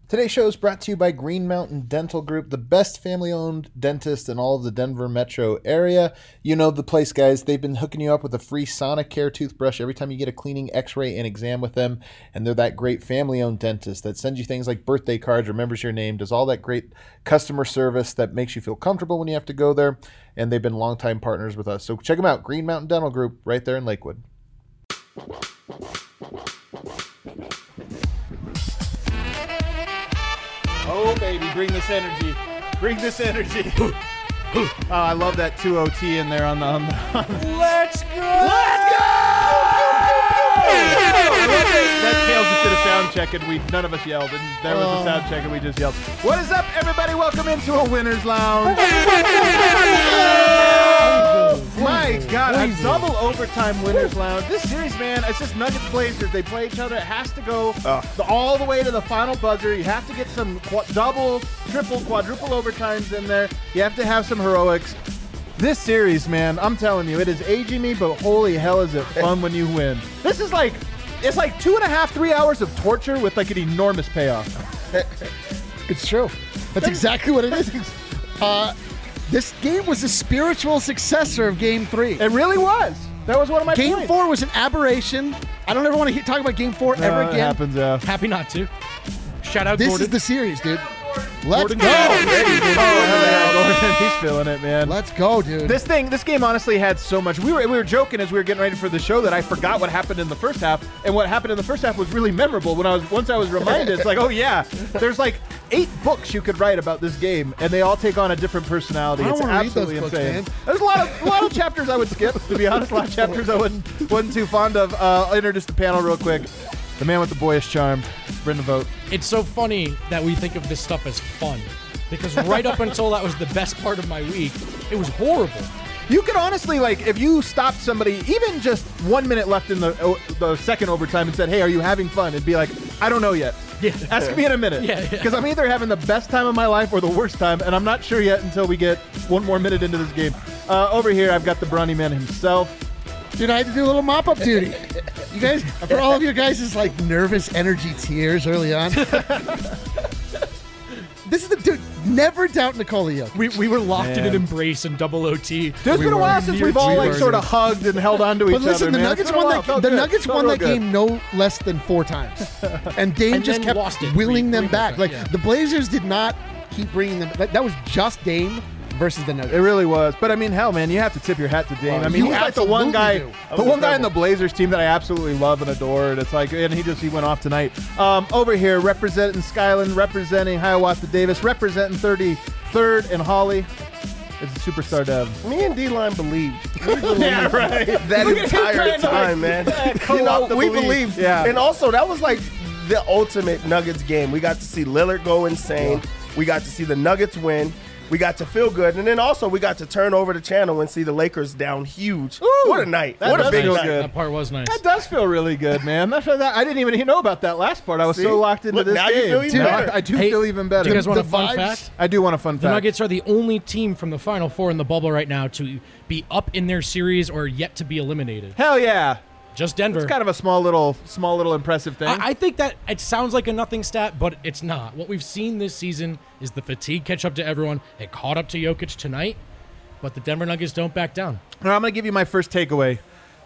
Today's show is brought to you by Green Mountain Dental Group, the best family-owned dentist in all of the Denver metro area. You know the place, guys. They've been hooking you up with a free Sonicare toothbrush every time you get a cleaning, x-ray, and exam with them. And they're that great family-owned dentist that sends you things like birthday cards, remembers your name, does all that great customer service that makes you feel comfortable when you have to go there. And they've been longtime partners with us. So check them out, Green Mountain Dental Group, right there in Lakewood. Oh, baby, bring this energy. Bring this energy. Oh, I love that 2OT in there on the... Let's go! Let's go! That Tails just did a sound check, and none of us yelled, and there was a sound check, and we just yelled. What is up, everybody? Welcome into a Winner's Lounge. My God, a double overtime Winner's Lounge. This series, man, it's just Nuggets Blazers. They play each other. It has to go all the way to the final buzzer. You have to get some double, triple, quadruple overtimes in there. You have to have some heroics. This series, man, I'm telling you, it is aging me, but holy hell is it fun when you win. This is like, it's like 2.5, 3 hours of torture with like an enormous payoff. It's true. That's exactly what it is. This game was a spiritual successor of Game 3. It really was. That was one of my Game points. 4 was an aberration. I don't ever want to talk about Game 4 ever again. It happens, yeah. Happy not to. Shout out This Gordon. is the series, dude. Let's Gordon go. Gordon, he's feeling it, man. Let's go, dude. This game honestly had so much. We were joking as we were getting ready for the show that I forgot what happened in the first half, and what happened in the first half was really memorable. Once I was reminded, it's like, oh yeah, there's like 8 books you could write about this game, and they all take on a different personality. I don't It's wanna read absolutely those books, insane. man. There's a lot of chapters I would skip. To be honest, a lot of chapters I wasn't too fond of. I'll introduce the panel real quick. The man with the boyish charm, Brendan Vogt. It's so funny that we think of this stuff as fun, because right up until that was the best part of my week, it was horrible. You could honestly, like, if you stopped somebody, even just 1 minute left in the second overtime and said, hey, are you having fun? It'd be like, I don't know yet. Yeah. Ask me in a minute. Yeah. Because I'm either having the best time of my life or the worst time, and I'm not sure yet until we get one more minute into this game. Over here, I've got the Brawny Man himself. Dude, I had to do a little mop-up duty. You guys, for all of your guys' like nervous energy tears early on. This is the dude. Never doubt Nikola Jokic. We were locked in Man. an embrace in double OT. There's been a while since we've all like sort of hugged and held on to each But listen, other. the man. Nuggets It's been a won while. that. Felt The good. Nuggets Felt won real that good. game no less than 4 times, and Dame And just then kept lost it willing three them more back. times, Like yeah. the Blazers did not keep bringing them. That was just Dame versus the Nuggets. It really was. But I mean, hell, man, you have to tip your hat to Dame. Well, I mean, you he's like the one guy, absolutely the one guy in the Blazers team that I absolutely love and adore. And it's like, and he went off tonight. Over here, representing Skyland, representing Hiawatha Davis, representing 33rd and Holly. It's a superstar dev. Me and D-Line believed. Yeah, right. That entire time, man. You know, we believed. Yeah. And also, that was like the ultimate Nuggets game. We got to see Lillard go insane. We got to see the Nuggets win. We got to feel good. And then also, we got to turn over the channel and see the Lakers down huge. Ooh, what a night. that What a does big feel night. good. That part was nice. That does feel really good, man. I didn't even know about that last part. I was See? so locked into Look, this now you game. feel even Dude, better. I do Hey, feel even better. Do you guys want a The fun vibes- fact? I do want a fun The fact. Nuggets are the only team from the Final Four in the bubble right now to be up in their series or yet to be eliminated. Hell yeah. Just Denver. It's kind of a small little impressive thing. I think that it sounds like a nothing stat, but it's not. What we've seen this season is the fatigue catch up to everyone. It caught up to Jokic tonight, but the Denver Nuggets don't back down. Now, I'm going to give you my first takeaway.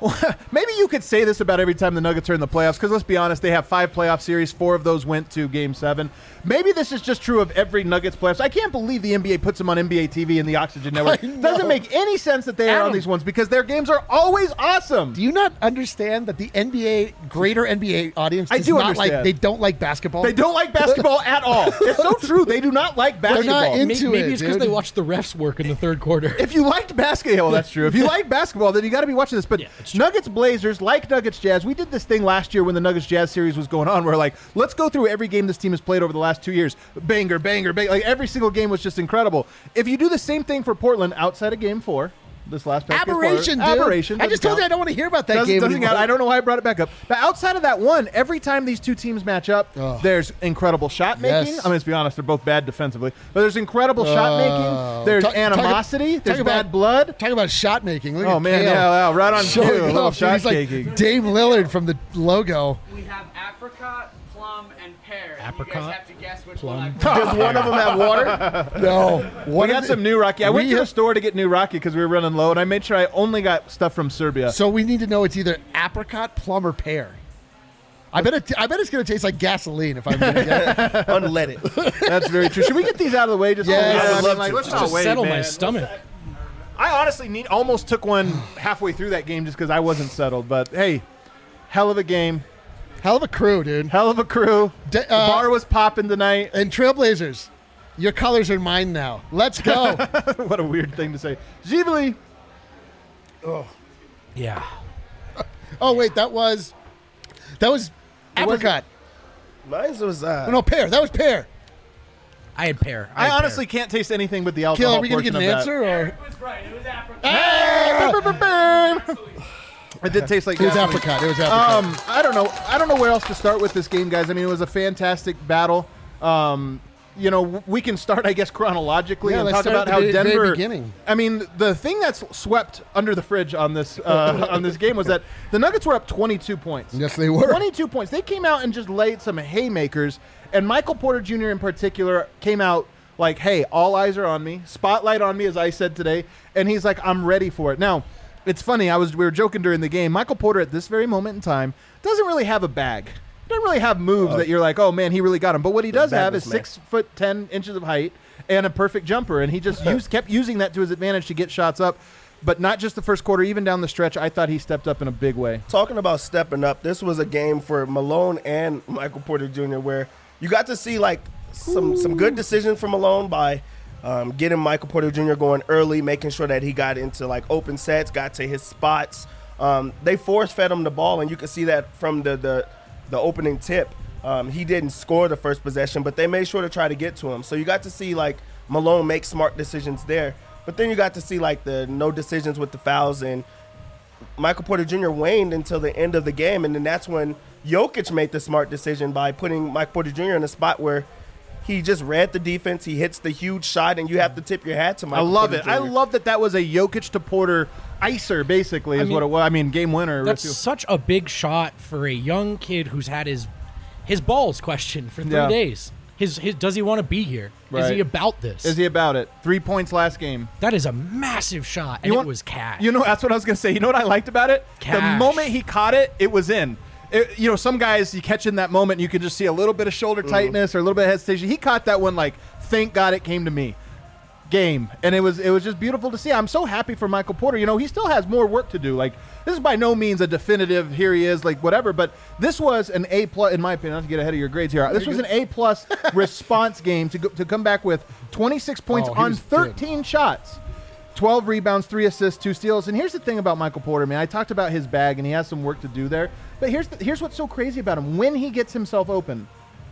Maybe you could say this about every time the Nuggets are in the playoffs, because let's be honest, they have 5 playoff series. 4 of those went to Game 7. Maybe this is just true of every Nuggets playoffs. I can't believe the NBA puts them on NBA TV and the Oxygen Network. I know. Doesn't make any sense that they are on Adam. these ones, because their games are always awesome. Do you not understand that the greater NBA audience I does do not understand. like? They don't like basketball. They don't like basketball at all. It's so true. They do not like They're basketball. not into Maybe it, it's because dude. they watched the refs work in the third quarter. If you liked basketball, that's true. If you like basketball, then you got to be watching this. But Yeah, it's true. Nuggets Blazers, like Nuggets Jazz, we did this thing last year when the Nuggets Jazz series was going on. Where like, let's go through every game this team has played over the last 2 years. Banger, banger, banger. Like every single game was just incredible. If you do the same thing for Portland outside of Game 4, this last past Game 4, Aberration, dude. aberration. I just told you I don't want to hear about that game Doesn't anymore. count. I don't know why I brought it back up. But outside of that one, every time these two teams match up, there's incredible shot making. Yes. I mean, let's be honest, they're both bad defensively. But there's incredible shot making. There's animosity. There's bad blood. Talk about shot making. Look Oh, at man, Kale yeah, right on cue. showing A little off, dude. shot He's like taking. Dame Lillard from the logo. We have apricot, plum, plum, and pear. And you Apricot, guys have to guess which plum. one I Does one of them have water? No. We got some new Rocky. I went to we- the store to get new Rocky because we were running low, and I made sure I only got stuff from Serbia. So we need to know it's either apricot, plum, or pear. I bet it's going to taste like gasoline if I'm going to get it. Unleaded. That's very true. Should we get these out of the way? Just Yeah, so we- I would love like, to. let's Just not wait, settle man. my stomach. I honestly almost took one halfway through that game just because I wasn't settled. But hey, hell of a game, Hell of a crew, dude. hell of a crew. De- The bar was popping tonight. And Trailblazers, your colors are mine now. Let's go. What a weird thing to say. Ghibli. Yeah. Oh wait, that was apricot. Mine was No, pear. That was pear. I had pear. I had honestly pear. can't taste anything but the Kill, alcohol are we going to portion get an of that. answer or? It was right. It was apricot. It did taste like It was gasoline. apricot. It was apricot. I don't know. I don't know where else to start with this game, guys. I mean, it was a fantastic battle. We can start, I guess, chronologically Yeah, and let's talk start about at how the very Denver. beginning. I mean, the thing that's swept under the fridge on this on this game was that the Nuggets were up 22 points. Yes, they were. 22 points. They came out and just laid some haymakers, and Michael Porter Jr. in particular came out like, hey, all eyes are on me, spotlight on me, as I said today, and he's like, I'm ready for it. Now, it's funny, we were joking during the game, Michael Porter at this very moment in time doesn't really have a bag. Doesn't really have moves that you're like, oh man, he really got him. But what he does have is man. 6'10" of height and a perfect jumper, and he just kept using that to his advantage to get shots up. But not just the first quarter, even down the stretch, I thought he stepped up in a big way. Talking about stepping up, this was a game for Malone and Michael Porter Jr. where you got to see like some good decisions from Malone by getting Michael Porter Jr. going early, making sure that he got into like open sets, got to his spots. They force fed him the ball, and you could see that from the opening tip. He didn't score the first possession, but they made sure to try to get to him. So you got to see like Malone make smart decisions there. But then you got to see like the no decisions with the fouls, and Michael Porter Jr. waned until the end of the game, and then that's when Jokic made the smart decision by putting Michael Porter Jr. in a spot where he just read the defense. He hits the huge shot, and you have to tip your hat to Michael I love Porter it. Jr. I love that was a Jokic to Porter icer, basically, is I mean, what it was. I mean, game winner. That's such a big shot for a young kid who's had his balls questioned for 3 Yeah. days. His does he want to be here? Is Right. he about this? Is he about it? 3 points last game. That is a massive shot, and it was cash. That's what I was going to say. You know what I liked about it? The Cash. moment he caught it, it was in. Some guys, you catch in that moment, and you can just see a little bit of shoulder tightness or a little bit of hesitation. He caught that one like, thank God it came to me. Game. And it was just beautiful to see. I'm so happy for Michael Porter. He still has more work to do. Like, this is by no means a definitive, here he is, like whatever, but this was an A+, in my opinion, not to get ahead of your grades here. This was an A+ response game to come back with 26 points Oh, he on was 13 shots. 12 rebounds, 3 assists, 2 steals. And here's the thing about Michael Porter, man. I talked about his bag, and he has some work to do there. But here's what's so crazy about him. When he gets himself open,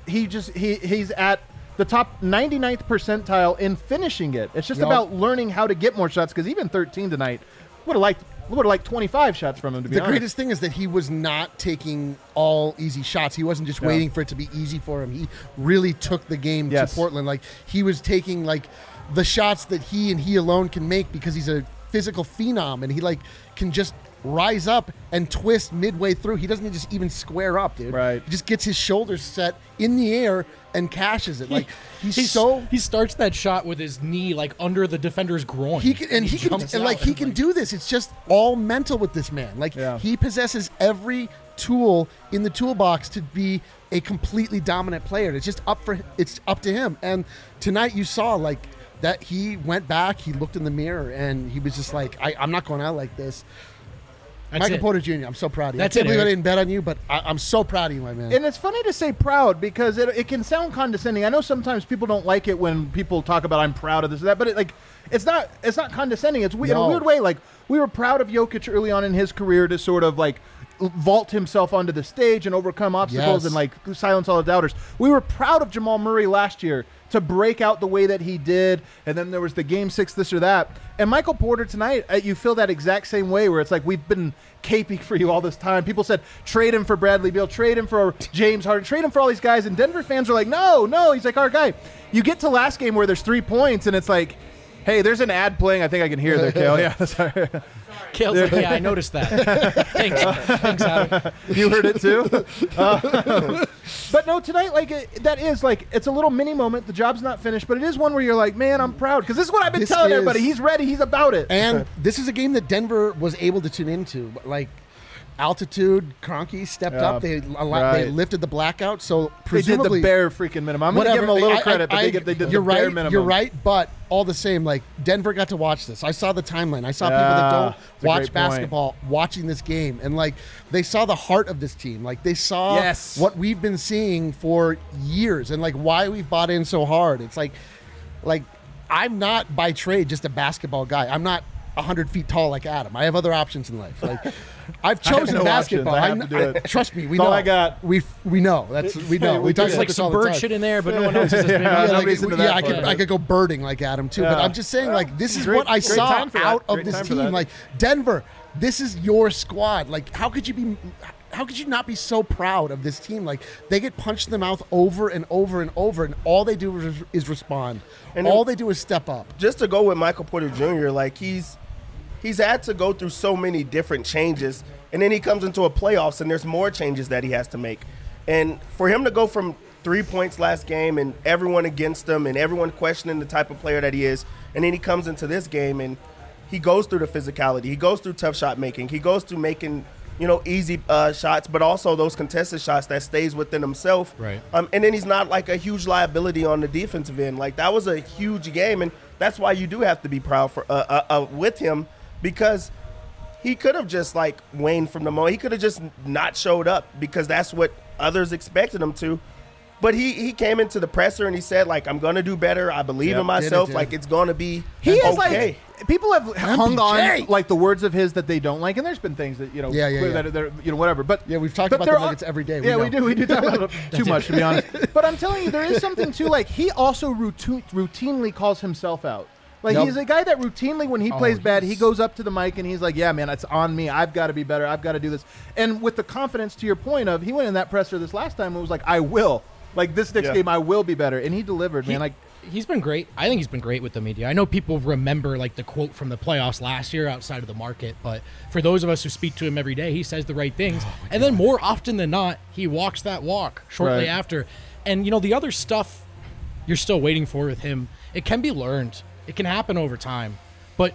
he's at the top 99th percentile in finishing it. It's just Yup. about learning how to get more shots, because even 13 tonight would have liked 25 shots from him, to be The honest. greatest thing is that he was not taking all easy shots. He wasn't just waiting for it to be easy for him. He really took the game Yes. to Portland. Like, he was taking like the shots that he alone can make because he's a physical phenom, and he like can just rise up and twist midway through. He doesn't just even square up, dude. Right. He just gets his shoulders set in the air and cashes it. Like, he he starts that shot with his knee like under the defender's groin. he can jumps and out like he and, can do this. It's just all mental with this man. Like, Yeah. he possesses every tool in the toolbox to be a completely dominant player. It's up to him. And tonight you saw like that he went back, he looked in the mirror, and he was just like, I'm not going out like this. That's Michael it. Porter Jr., I'm so proud of you. That's I can't it, believe I Eric. didn't bet on you, but I'm so proud of you, my man. And it's funny to say proud because it can sound condescending. I know sometimes people don't like it when people talk about I'm proud of this or that, but it's not condescending. It's in a No. weird way. Like, we were proud of Jokic early on in his career to sort of like vault himself onto the stage and overcome obstacles Yes. and like silence all the doubters. We were proud of Jamal Murray last year to break out the way that he did, and then there was the Game 6 this or that. And Michael Porter tonight, you feel that exact same way where it's like, we've been caping for you all this time. People said, trade him for Bradley Beal, trade him for James Harden, trade him for all these guys, and Denver fans are like, no, he's like our guy. You get to last game where there's 3 points, and it's like, Hey, there's an ad playing. I think I can hear there, Kale. Yeah, sorry. Kale's like, yeah, I noticed that. Thanks, Adam. You heard it too. But no, tonight, that is it's a little mini moment. The job's not finished, but it is one where you're like, man, I'm proud because this is what I've been telling everybody. He's ready. He's about it. And this is a game that Denver was able to tune into. Altitude, Kroenke stepped up. They lifted the blackout. So presumably they did the bare freaking minimum. I'm going to give them a little credit, but they did the bare minimum. You're right, but all the same, Denver got to watch this. I saw the timeline. I saw people that don't watch basketball watching this game, and they saw the heart of this team. They saw what we've been seeing for years, and why we've bought in so hard. It's like I'm not by trade just a basketball guy. I'm not 100 feet tall like Adam. I have other options in life. I've chosen basketball. I have to do it. Trust me, we That's know. all I got. We know. We know. We talk There's about this some all the bird time. shit in there, but no one else is as nobody's into that part. I could go birding like Adam too, but I'm just saying this is what I saw time for that. out of Great this time for team. that. Denver, this is your squad. How could you not be so proud of this team? They get punched in the mouth over and over and over, and all they do is respond. And all they do is step up. Just to go with Michael Porter Jr., he's had to go through so many different changes, and then he comes into a playoffs, and there's more changes that he has to make. And for him to go from 3 points last game and everyone against him and everyone questioning the type of player that he is, and then he comes into this game and he goes through the physicality, he goes through tough shot making, he goes through making easy shots, but also those contested shots that stays within himself. Right. And then he's not a huge liability on the defensive end. That was a huge game, and that's why you do have to be proud for with him, because he could have just waned from the moment. He could have just not showed up because that's what others expected him to. But he came into the presser and he said, I'm going to do better. I believe in myself. It's going to be okay. People have hung on the words of his that they don't like, and there's been things that that they're whatever. But we've talked about the Nuggets every day. We do talk about it too much, to be honest. But I'm telling you, there is something too. He also routinely calls himself out. He's a guy that routinely, when he plays bad, he goes up to the mic and he's like, yeah, man, it's on me. I've got to be better. I've got to do this. And with the confidence, to your point of, he went in that presser this last time and was like, I will. This next game, I will be better. And he delivered, man. He's been great. I think he's been great with the media. I know people remember the quote from the playoffs last year outside of the market, but for those of us who speak to him every day, he says the right things. And then more often than not, he walks that walk shortly after. And, the other stuff you're still waiting for with him, it can be learned. It can happen over time. But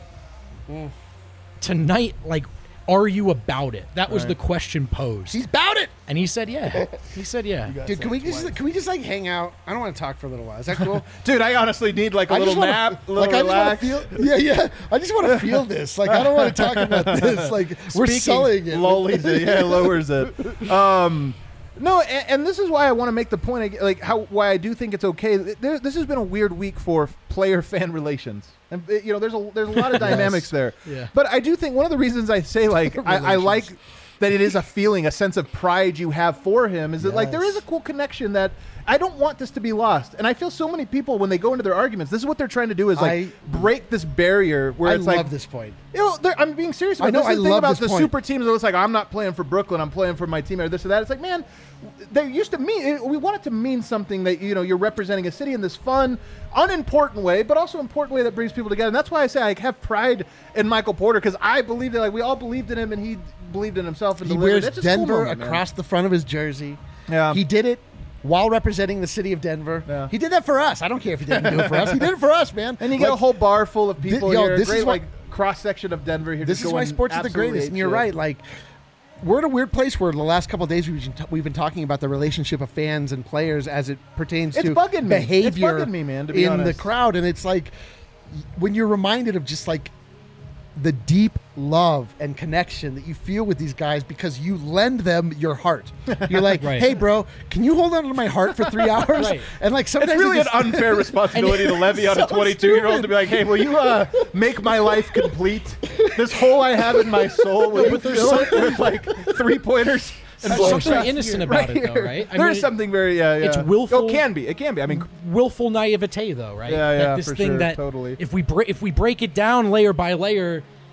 tonight, are you about it? That was the question posed. He's about it. And he said, yeah. He said, yeah. Dude, can we just hang out? I don't want to talk for a little while. Is that cool? Dude, I honestly need a little nap, a little relax. I just want to feel this. I don't want to talk about this. We're selling it. Lowers it. No, and this is why I want to make the point, why I do think it's okay. This has been a weird week for player-fan relations, and there's a lot of dynamics there. Yeah. But I do think one of the reasons I say I like that it is a feeling, a sense of pride you have for him, is that there is a cool connection that I don't want this to be lost. And I feel so many people, when they go into their arguments, this is what they're trying to do is break this barrier where it's I love this point. I'm being serious about this. I love about the super teams. It's I'm not playing for Brooklyn. I'm playing for my team or this or that. It's man, they used to mean, we want it to mean something that, you're representing a city in this fun, unimportant way, but also important way that brings people together. And that's why I say I have pride in Michael Porter, because I believe that we all believed in him and he believed in himself. And he wears Denver across the front of his jersey. Yeah. He did it while representing the city of Denver. Yeah. He did that for us. I don't care if he didn't do it for us. He did it for us, man. And you get a whole bar full of people here. This great, is why, cross-section of Denver here. This is why sports is the greatest. And you're right. We're in a weird place where the last couple of days we've been talking about the relationship of fans and players as it pertains to behavior it's bugging me, man, to be in honest. the crowd. And it's when you're reminded of just the deep love and connection that you feel with these guys because you lend them your heart. You're like, hey, bro, can you hold on to my heart for 3 hours? Right. And sometimes it's really an unfair responsibility to levy on a 22-year-old to be like, hey, will you make my life complete? This hole I have in my soul, will you fill it with 3-pointers? There's something innocent about it, though, right? There's something very, It's willful. It can be. I mean, willful naivete, though, right? Yeah, this for thing sure, that totally. if we break it down layer by layer,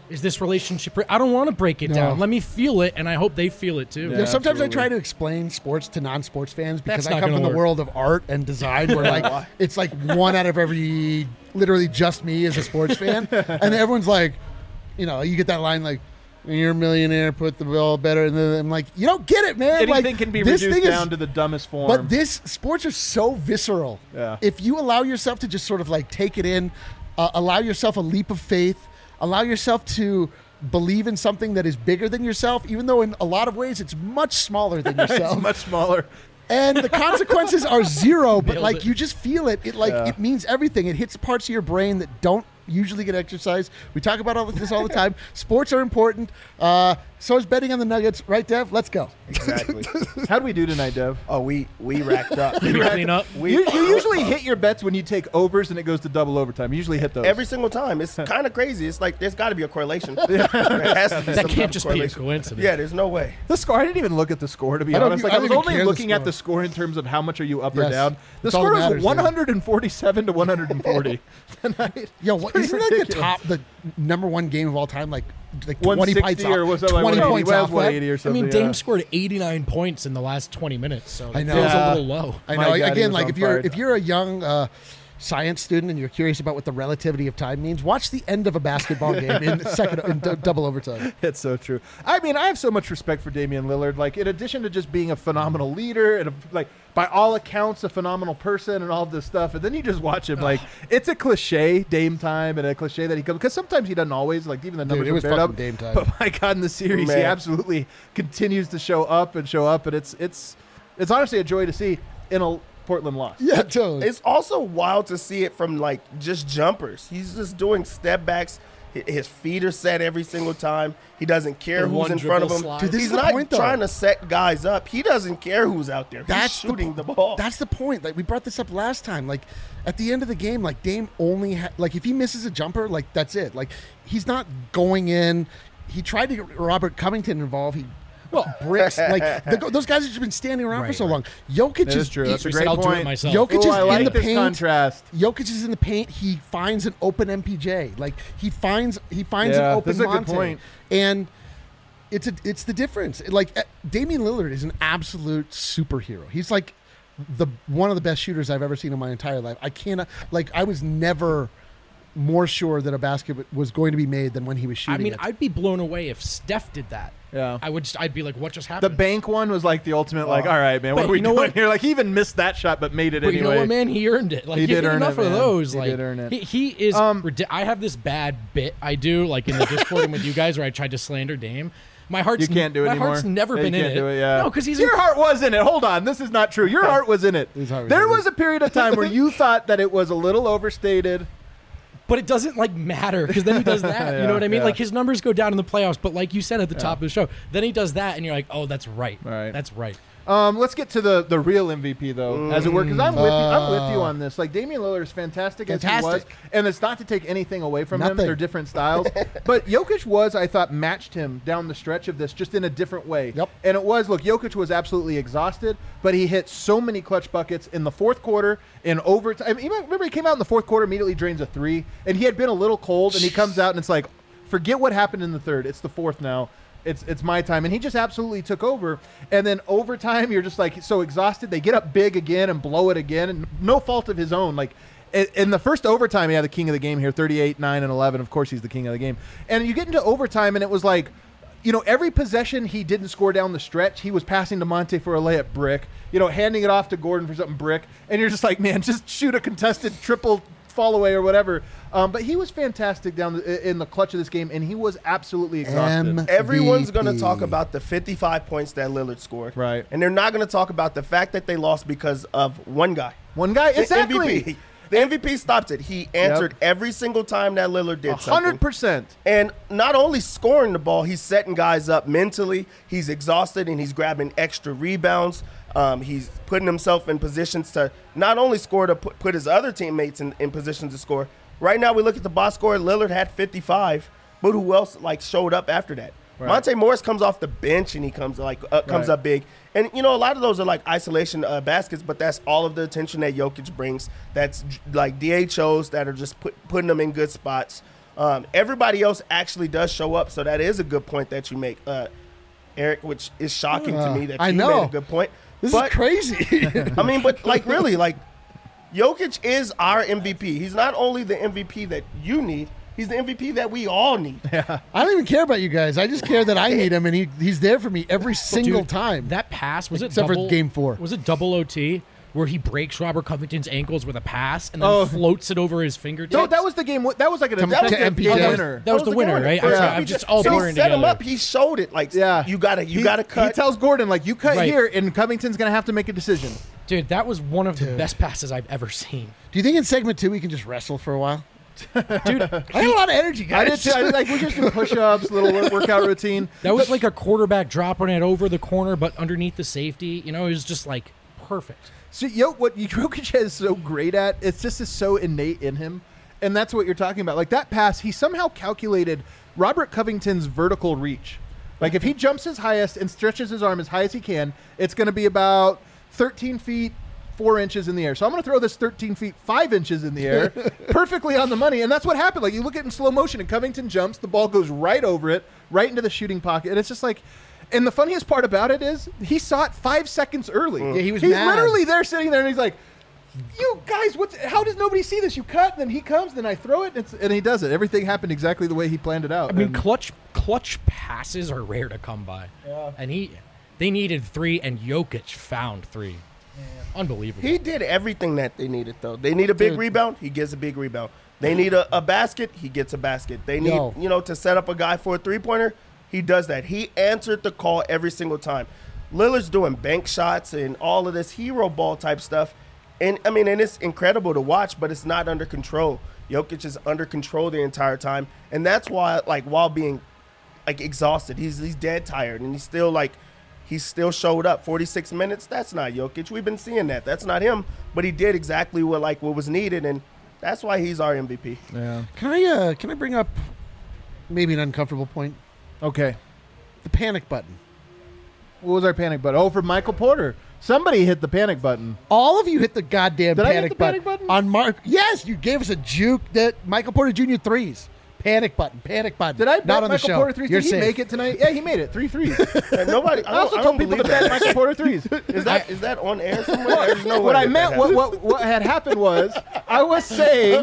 Is this relationship? I don't want to break it No. down. Let me feel it, and I hope they feel it too. Yeah, sometimes absolutely. I try to explain sports to non-sports fans because That's I not come gonna from the work. world of art and design where like it's like one out of every, literally just me as a sports fan. And everyone's like, you know, you get that line like, you're a millionaire, put the ball better. And then I'm like, you don't get it, man. Anything like, can be this reduced thing down to the dumbest form. But this sports are so visceral. Yeah. If you allow yourself to just sort of like take it in, allow yourself a leap of faith, allow yourself to believe in something that is bigger than yourself, even though in a lot of ways it's much smaller than yourself. It's much smaller. And the consequences are zero, but Nailed like it. you just feel it. It means everything. It hits parts of your brain that don't usually get exercised. We talk about all this all the time. Sports are important. So is betting on the Nuggets, right, Dev? Let's go. Exactly. How do we do tonight, Dev? Oh, we racked up. Maybe clean up. You usually hit your bets when you take overs and it goes to double overtime. You usually hit those. Every single time. It's kind of crazy. It's like there's got to be a correlation. There has to be That some type can't of just be a correlation. coincidence. Yeah, there's no way. The score, I didn't even look at the score, to be I don't honest. even- Like, I I was don't even only care the looking at score. the score in terms of how much are you up or Yes. down. The That's all score that matters, was man. 147 to 140 tonight. Yo, what, Pretty isn't that ridiculous. the number one game of all time? Like 20 160 points off. or was that like 20 180? points Well, off it was that. 180 or I something. mean, Dame scored 89 points in the last 20 minutes, so I it know. feels Yeah. a little low. I My know. God, he Again, was like on if fire. you're a young science student and you're curious about what the relativity of time means, watch the end of a basketball game in double overtime. It's so true. I mean, I have so much respect for Damian Lillard. Like, in addition to just being a phenomenal leader and by all accounts, a phenomenal person and all of this stuff, and then you just watch him. Like, it's a cliche, Dame time, and a cliche that he comes because sometimes he doesn't always. Like, even the numbers it are was bared fucking up. Dame time. But my God, in the series, he Man. absolutely continues to show up, and it's honestly a joy to see in a Portland loss. Yeah, totally. It's also wild to see it from like just jumpers. He's just doing step backs. His feet are set every single time. He doesn't care The who's one in front of dribble him. slide. Dude, this He's is the not point, though. trying to set guys up. He doesn't care who's out there. That's He's shooting the ball. That's the point. Like we brought this up last time. Like at the end of the game, like Dame only like if he misses a jumper, like that's it. Like he's not going in. He tried to get Robert Covington involved. He bricks like those guys have just been standing around for Right, so right. long. Jokic That is true. That's a He great said, I'll do point. it myself. Jokic Ooh, is I in like the this paint. contrast. Jokic is in the paint. He finds an open MPJ. Like he finds an Yeah, open this is a good Monte. point. And it's the difference. Like Damian Lillard is an absolute superhero. He's like one of the best shooters I've ever seen in my entire life. I was never more sure that a basket was going to be made than when he was I shooting mean, it. I'd be blown away if Steph did that. Yeah. I'd be like, what just The happened? bank one was like the ultimate, like, all right, man, what But are we you know doing what? here? Like, he even missed that shot, but made it But anyway. you know what, man? He earned it. Like He you did get earn enough it, of man. those. He Like did earn it. He is. I have this bad bit I do, like in the Discord and with you guys, where I tried to slander Dame. My heart's You can't do it my anymore. heart's never Yeah, been you in can't it. do it, yeah. No, because he's your heart was in it. Hold on, this is not true. Your heart was in it. His heart was There in it. was a period of time where you thought that it was a little overstated. But it doesn't like matter because then he does that. You know what I mean? yeah. Like his numbers go down in the playoffs, but like you said at the top of the show, then he does that, and you're like, oh, that's right. Right. That's right. Let's get to the real MVP though, as it were, because I'm with you on this. Like Damian Lillard is fantastic as he was, Fantastic. and it's not to take anything away from him. Nothing. They're different styles, but Jokic I thought, matched him down the stretch of this, just in a different way. Yep. And it was, look, Jokic was absolutely exhausted, but he hit so many clutch buckets in the fourth quarter, in overtime. Remember, he came out in the fourth quarter, immediately drains a three, and he had been a little cold, and he comes out and it's like, forget what happened in the third. It's the fourth now. It's my time. And he just absolutely took over. And then overtime, you're just like so exhausted. They get up big again and blow it again. And no fault of his own. Like in the first overtime, he had the king of the game here, 38, 9, and 11. Of course, he's the king of the game. And you get into overtime, and it was like, you know, every possession he didn't score down the stretch, he was passing to Monte for a layup brick, you know, handing it off to Gordon for something brick. And you're just like, man, just shoot a contested triple fall away or whatever. But he was fantastic in the clutch of this game, and he was absolutely exhausted. Everyone's going to MVP. talk about the 55 points that Lillard scored. Right. And they're not going to talk about the fact that they lost because of one guy. One guy, The exactly. MVP. The MVP stopped it. He answered every single time that Lillard did something. 100%. And not only scoring the ball, he's setting guys up mentally. He's exhausted, and he's grabbing extra rebounds. He's putting himself in positions to not only score, to put his other teammates in positions to score. Right now, we look at the box score. Lillard had 55, but who else showed up after that? Right. Monte Morris comes off the bench, and he comes Right. up big. And, you know, a lot of those are like isolation baskets, but that's all of the attention that Jokic brings. That's like DHOs that are just putting them in good spots. Everybody else actually does show up, so that is a good point that you make, Eric, which is shocking to me that I you know. made a good point. This But is crazy. I mean, but like really, like Jokic is our MVP. He's not only the MVP that you need, he's the MVP that we all need. I don't even care about you guys. I just care that I need him, and he's there for me every single Dude, time. That pass, was it Except for double, game 4. Was it double OT? Where he breaks Robert Covington's ankles with a pass and then floats it over his fingertips. No, that was the game. That was like To MPJ. winner. That was the winner, right? I'm sorry, I'm just all so he blurring set him together. up. He showed it. Like, Yeah, you gotta cut. He tells Gordon like, you cut Right. here, and Covington's gonna have to make a decision. Dude, that was one of the best passes I've ever seen. Do you think in segment 2 we can just wrestle for a while? Dude, I have a lot of energy, guys. I did too. I did, like we just do push-ups, little workout routine. that was like a quarterback dropping it over the corner, but underneath the safety. You know, it was just like perfect. So, what Jokic is so great at, it's just is so innate in him, and that's what you're talking about. Like that pass, he somehow calculated Robert Covington's vertical reach. Like if he jumps his highest and stretches his arm as high as he can, it's going to be about 13 feet 4 inches in the air. So I'm going to throw this 13 feet 5 inches in the air, perfectly on the money, and that's what happened. Like you look at it in slow motion, and Covington jumps, the ball goes right over it, right into the shooting pocket, and it's just like. And the funniest part about it is he saw it 5 seconds early. Yeah, he's mad. Literally there sitting there, and he's like, you guys, how does nobody see this? You cut, then he comes, then I throw it, and he does it. Everything happened exactly the way he planned it out. I mean, And clutch passes are rare to come by. Yeah. And they needed 3, and Jokic found 3. Unbelievable. He did everything that they needed, though. They need a big rebound, he gets a big rebound. They need a basket, he gets a basket. They need, to set up a guy for a three-pointer, he does that. He answered the call every single time. Lillard's doing bank shots and all of this hero ball type stuff. And, I mean, and it's incredible to watch, but it's not under control. Jokic is under control the entire time. And that's why, like, while being, like, exhausted, he's dead tired. And he still showed up. 46 minutes, that's not Jokic. We've been seeing that. That's not him. But he did exactly what was needed. And that's why he's our MVP. yeah. Can I bring up maybe an uncomfortable point? Okay. The panic button. What was our panic button? Oh, for Michael Porter. Somebody hit the panic button. All of you hit the goddamn Did I hit panic the panic button? on Mark. Yes, you gave us a juke that Michael Porter Jr. threes. Panic button. Did I bet Not on Michael the show. Porter threes? You're Did he safe. make it tonight? Yeah, he made it. 3 threes. And nobody. I also don't told people to believe bet that. Michael Porter threes. Is that on air somewhere? There's no What way I that meant, happened. what had happened was, I was saying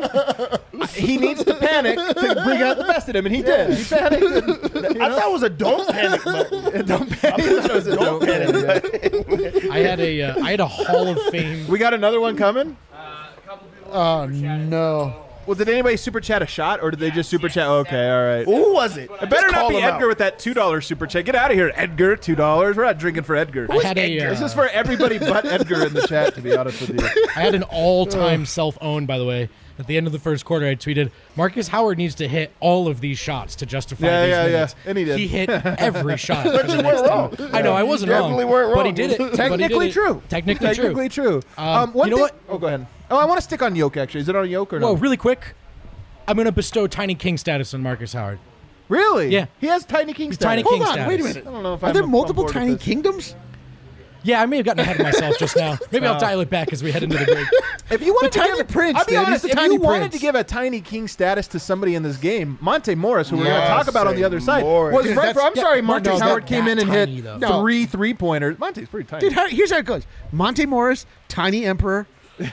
he needs to panic to bring out the best in him, and he did. He panicked. And, I thought it was a don't panic button. don't panic. It was a don't panic. I had a Hall of Fame. We got another one coming. A couple people. Oh, no. Well, did anybody super chat a shot, or did they just super chat? Okay, all right. Who was it? It better Just not call be him Edgar out. with that $2 super chat. Get out of here, Edgar. $2. We're not drinking for Edgar. I had a, This is for everybody but Edgar in the chat, to be honest with you. I had an all-time self-own, by the way. At the end of the first quarter, I tweeted, Marcus Howard needs to hit all of these shots to justify these minutes. And he did. He hit every shot. for But the you next weren't 10. wrong. I know, I wasn't wrong. definitely weren't But he wrong. did it. Technically true. Technically true. One you know thing, what? Oh, go ahead. Oh, I want to stick on Yoke, actually. Is it on Yoke or no? Whoa, really quick. I'm going to bestow Tiny King status on Marcus Howard. Really? Yeah. He has Tiny King status. Tiny Hold King on, status. wait a minute. I don't know if Are I'm there on multiple board with tiny this. kingdoms? Yeah, I may have gotten ahead of myself just now. Maybe I'll dial it back as we head into the break. If you wanted The to Tiny give, Prince, I'll be then. He's honest. the If Tiny you wanted Prince. to give a Tiny King status to somebody in this game, Monte Morris, who we're going to Yes, talk about on the other side, Morris. was Dude, right. that's- I'm sorry, yeah, Monte no, Howard that- came in that and tiny, hit though. No. 3 3-pointers. Monte's pretty tiny. Dude, here's how it goes. Monte Morris, Tiny Emperor.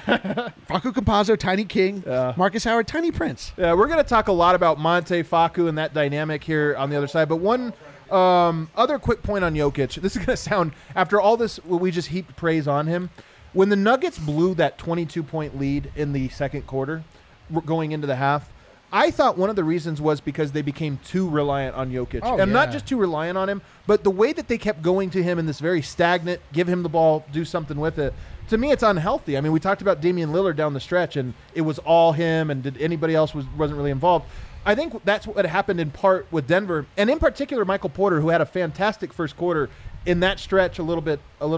Facu Campazzo, Tiny King. Marcus Howard, Tiny Prince. Yeah, we're going to talk a lot about Monte, Facu, and that dynamic here on the other side. But one other quick point on Jokic. This is going to sound, after all this, we just heaped praise on him. When the Nuggets blew that 22-point lead in the second quarter, going into the half, I thought one of the reasons was because they became too reliant on Jokic. Oh, and not yeah. just too reliant on him, but the way that they kept going to him in this very stagnant, give him the ball, do something with it. To me, it's unhealthy. I mean, we talked about Damian Lillard down the stretch, and it was all him, and did anybody else wasn't really involved. I think that's what happened in part with Denver, and in particular Michael Porter, who had a fantastic first quarter in that stretch, a little bit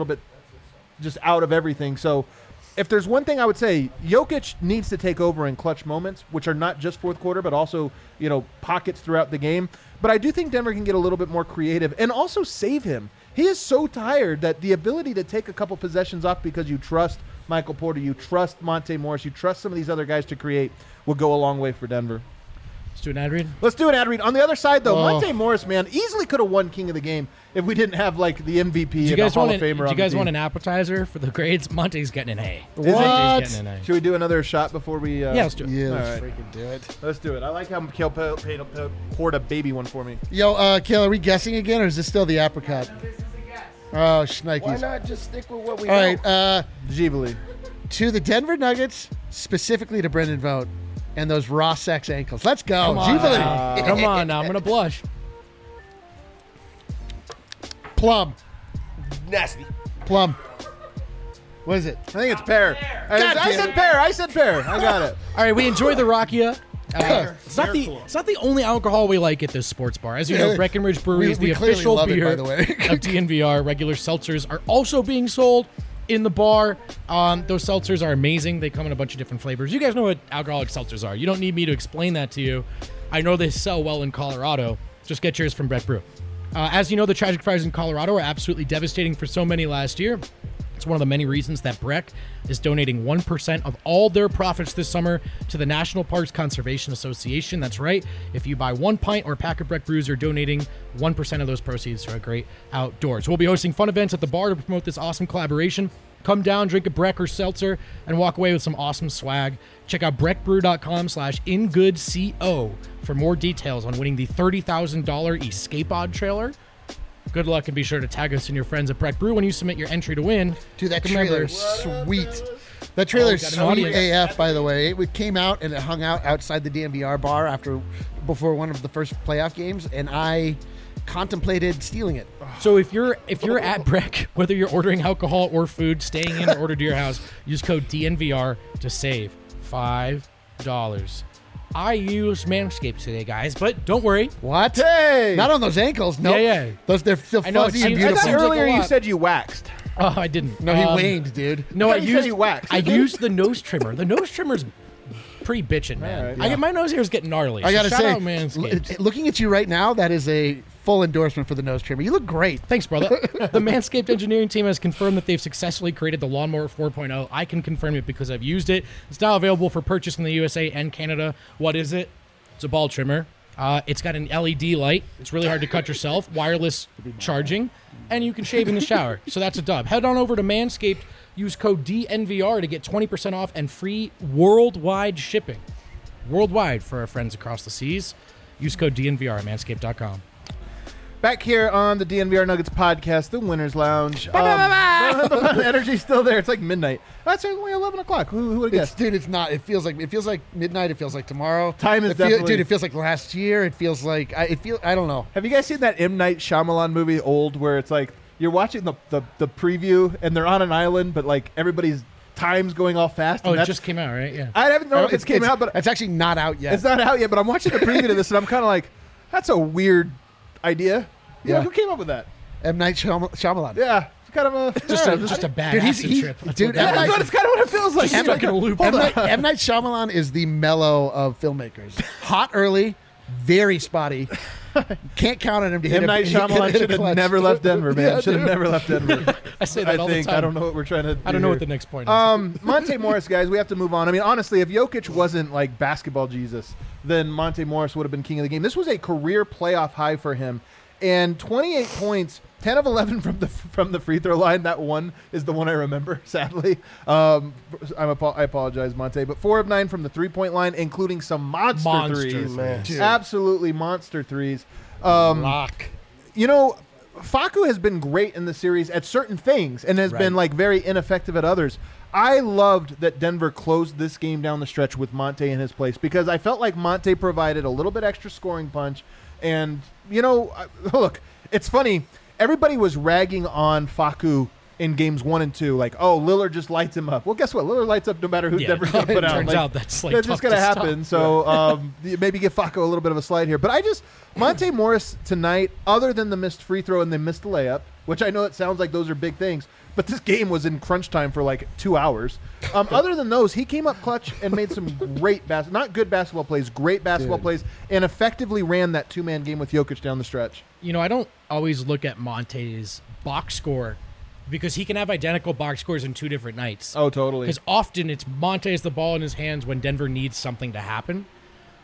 just out of everything. So if there's one thing I would say, Jokic needs to take over in clutch moments, which are not just fourth quarter, but also, pockets throughout the game. But I do think Denver can get a little bit more creative and also save him. He is so tired that the ability to take a couple possessions off because you trust Michael Porter, you trust Monte Morris, you trust some of these other guys to create will go a long way for Denver. Let's do an ad read. Let's do an ad read. On the other side, though, Oh. Monte Morris, man, easily could have won King of the Game if we didn't have like the MVP Do you and guys the Hall want of Famer. do on you guys the want team. an appetizer for the grades? Monte's getting an A. Is it? Monte's getting an A. Should we do another shot before we? Yeah, let's do it. Yeah, All let's right. freaking do it. Let's do it. I like how Mikhail poured a baby one for me. Yo, Kale, are we guessing again, or is this still the apricot? This is a guess. Oh, Why shnikes. not just stick with what we All know? right, Givali. to the Denver Nuggets, specifically to Brendan Vogt, and those raw sex ankles. Let's go. Come on, Givali. now. Come on now. I'm gonna blush. Plum. Nasty. Plum. What is it? I think it's pear. I damn said it. pear. I said pear. I got it. All right, we enjoy the Rakia. It's not the only alcohol we like at this sports bar. As you know, Yeah. Breckenridge Brewery is We the clearly official love it, beer by the way. of DNVR. Regular seltzers are also being sold in the bar. Those seltzers are amazing. They come in a bunch of different flavors. You guys know what alcoholic seltzers are. You don't need me to explain that to you. I know they sell well in Colorado. Just get yours from Breck Brew. As you know, the tragic fires in Colorado are absolutely devastating for so many last year. It's one of the many reasons that Breck is donating 1% of all their profits this summer to the National Parks Conservation Association. That's right. If you buy 1 pint or pack of Breck brews, you're donating 1% of those proceeds to a great outdoors. We'll be hosting fun events at the bar to promote this awesome collaboration. Come down, drink a Breck or seltzer, and walk away with some awesome swag. Check out breckbrew.com/ingoodco for more details on winning the $30,000 Escape Pod trailer. Good luck, and be sure to tag us and your friends at Breck Brew when you submit your entry to win. Dude, that Remember- trailer is sweet. That trailer is got an sweet audience. AF, by the way. It came out and it hung out outside the DMVR bar before one of the first playoff games, and I contemplated stealing it. So if you're at Breck, whether you're ordering alcohol or food, staying in or ordered to your house, use code DNVR to save $5. I used Manscaped today, guys, but don't worry. What? Hey! Not on those ankles. No. Yeah. Those they're still I know, fuzzy it and seems- I beautiful. thought seems like earlier a you lot. said you waxed. Oh, I didn't. No, he waned, dude. No, I thought you said used you waxed. I You did? used the nose trimmer. The nose trimmer's pretty bitchin', man. All right. I get my nose hair is getting gnarly. I so gotta shout say, out Manscaped. looking at you right now, that is a full endorsement for the nose trimmer. You look great. Thanks, brother. The Manscaped engineering team has confirmed that they've successfully created the Lawnmower 4.0. I can confirm it because I've used it. It's now available for purchase in the USA and Canada. What is it? It's a ball trimmer. It's got an LED light. It's really hard to cut yourself. Wireless charging. And you can shave in the shower. So that's a dub. Head on over to Manscaped. Use code DNVR to get 20% off and free worldwide shipping. Worldwide for our friends across the seas. Use code DNVR at manscaped.com. Back here on the DNVR Nuggets podcast, the Winners Lounge. The energy's still there. It's like midnight. That's only 11 o'clock. Who would have guessed? Dude, it's not. It feels like midnight. It feels like tomorrow. Time is It feel- definitely- Dude, it feels like last year. It feels like I don't know. Have you guys seen that M. Night Shyamalan movie, Old, where it's like you're watching the preview and they're on an island, but like everybody's time's going all fast? Oh, and it that's- just came out, right? Yeah. I haven't know if it came out, but it's actually not out yet. it's not out yet. But I'm watching the preview to this, and I'm kind of like, that's a weird idea. Yeah, Yeah. who came up with that? M. Night Shyamalan. Yeah, it's kind of a Just a bad Dude, acid trip. That's dude, what that M. That's Night- what it's kind of what it feels like. Just stuck in a loop. M. Night Shyamalan is the mellow of filmmakers. Hot early, very spotty. Can't count on him to hit M. Night Shyamalan hit a should have clutch. never left Denver, man. Yeah, Should have dude. never left Denver. I say that all think the time. I don't know what we're trying to. I don't know what the next point is. Monte Morris, guys, we have to move on. I mean, honestly, if Jokic wasn't like basketball Jesus, then Monte Morris would have been king of the game. This was a career playoff high for him, and 28 points, 10 of 11 from the free throw line. That one is the one I remember. Sadly, I apologize, Monte, but 4 of 9 from the 3-point line, including some monster threes. man. Dude. Absolutely monster threes. Lock. You know, Facu has been great in the series at certain things and has been like very ineffective at others. I loved that Denver closed this game down the stretch with Monte in his place because I felt like Monte provided a little bit extra scoring punch. And, you know, look, it's funny. Everybody was ragging on Facu in games 1 and 2, like, oh, Lillard just lights him up. Well, guess what? Lillard lights up no matter who Yeah, Denver's going to put it out. turns Like, out that's like that's tough just going to to happen. stop. So maybe give Facu a little bit of a slide here. But Monte Morris tonight, other than the missed free throw and the missed layup, which I know it sounds like those are big things, but this game was in crunch time for like 2 hours. Other than those, he came up clutch and made some great not good basketball plays, great basketball plays, and effectively ran that 2-man game with Jokic down the stretch. You know, I don't always look at Monte's box score because he can have identical box scores in 2 different nights. Oh, totally. Because often it's Monte has the ball in his hands when Denver needs something to happen.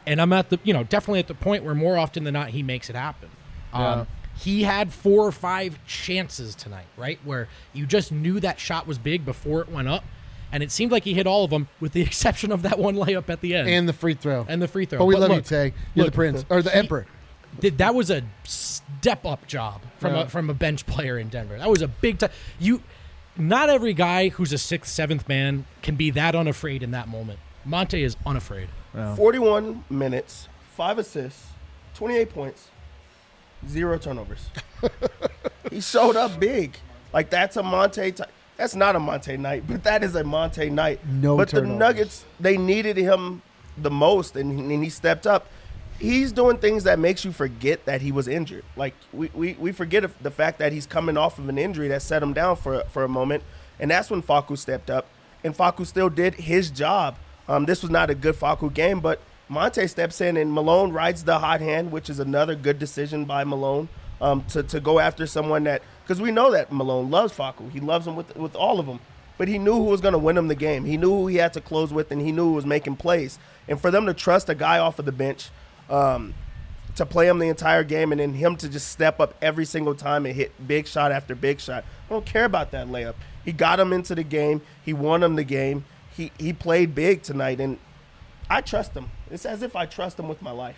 And I'm at the, definitely at the point where more often than not he makes it happen. Yeah. He had 4 or 5 chances tonight, right, where you just knew that shot was big before it went up, and it seemed like he hit all of them, with the exception of that one layup at the end And the free throw. But we love you, look, Tay. You're look, the prince. Or the emperor. that was a step up job from a bench player in Denver. That was a big time. Not every guy who's a 6th, 7th man can be that unafraid in that moment. Monte is unafraid. 41 minutes, 5 assists, 28 points, 0 turnovers. He showed up big. Like, that's a Monte that's not a Monte night, but that is a Monte night. But turnovers. the Nuggets, they needed him the most, and he stepped up. He's doing things that makes you forget that he was injured. Like, we forget the fact that he's coming off of an injury that set him down for a moment, and that's when Facu stepped up, and Facu still did his job. This was not a good Facu game, but Monte steps in, and Malone rides the hot hand, which is another good decision by Malone to go after someone that – because we know that Malone loves Facu. He loves him with all of them. But he knew who was going to win him the game. He knew who he had to close with, and he knew who was making plays. And for them to trust a guy off of the bench – to play him the entire game, and then him to just step up every single time and hit big shot after big shot. I don't care about that layup. He got him into the game. He won him the game. He played big tonight, and I trust him. It's as if I trust him with my life.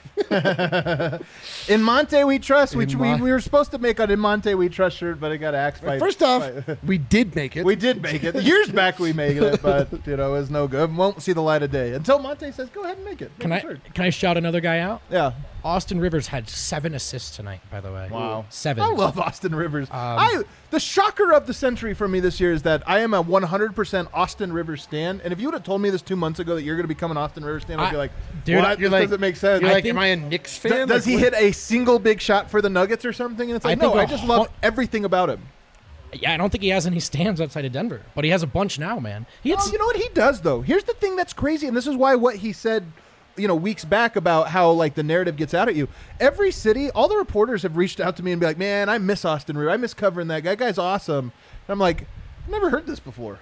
In Monte we trust, which we were supposed to make an In Monte we trust shirt, but it got axed by. First off, we did make it. We did make it. Years back we made it, but it was no good. Won't see the light of day until Monte says, "Go ahead and make it." Can I shout another guy out? Yeah. Austin Rivers had 7 assists tonight, by the way. Wow. 7. I love Austin Rivers. The shocker of the century for me this year is that I am a 100% Austin Rivers stan. And if you would have told me this 2 months ago that you're going to become an Austin Rivers stan, I'd be like, dude, what? you're This like- doesn't make sense. You're like, think- am I a Knicks fan? Does he Like, hit a single big shot for the Nuggets or something? And it's like, I think no, a I just love everything about him. Yeah, I don't think he has any stands outside of Denver, but he has a bunch now, man. You know what he does, though? Here's the thing that's crazy, and this is why what he said weeks back about how, like, the narrative gets out at you. Every city, all the reporters have reached out to me and be like, man, I miss Austin Rivers. I miss covering that guy. That guy's awesome. And I'm like, I've never heard this before.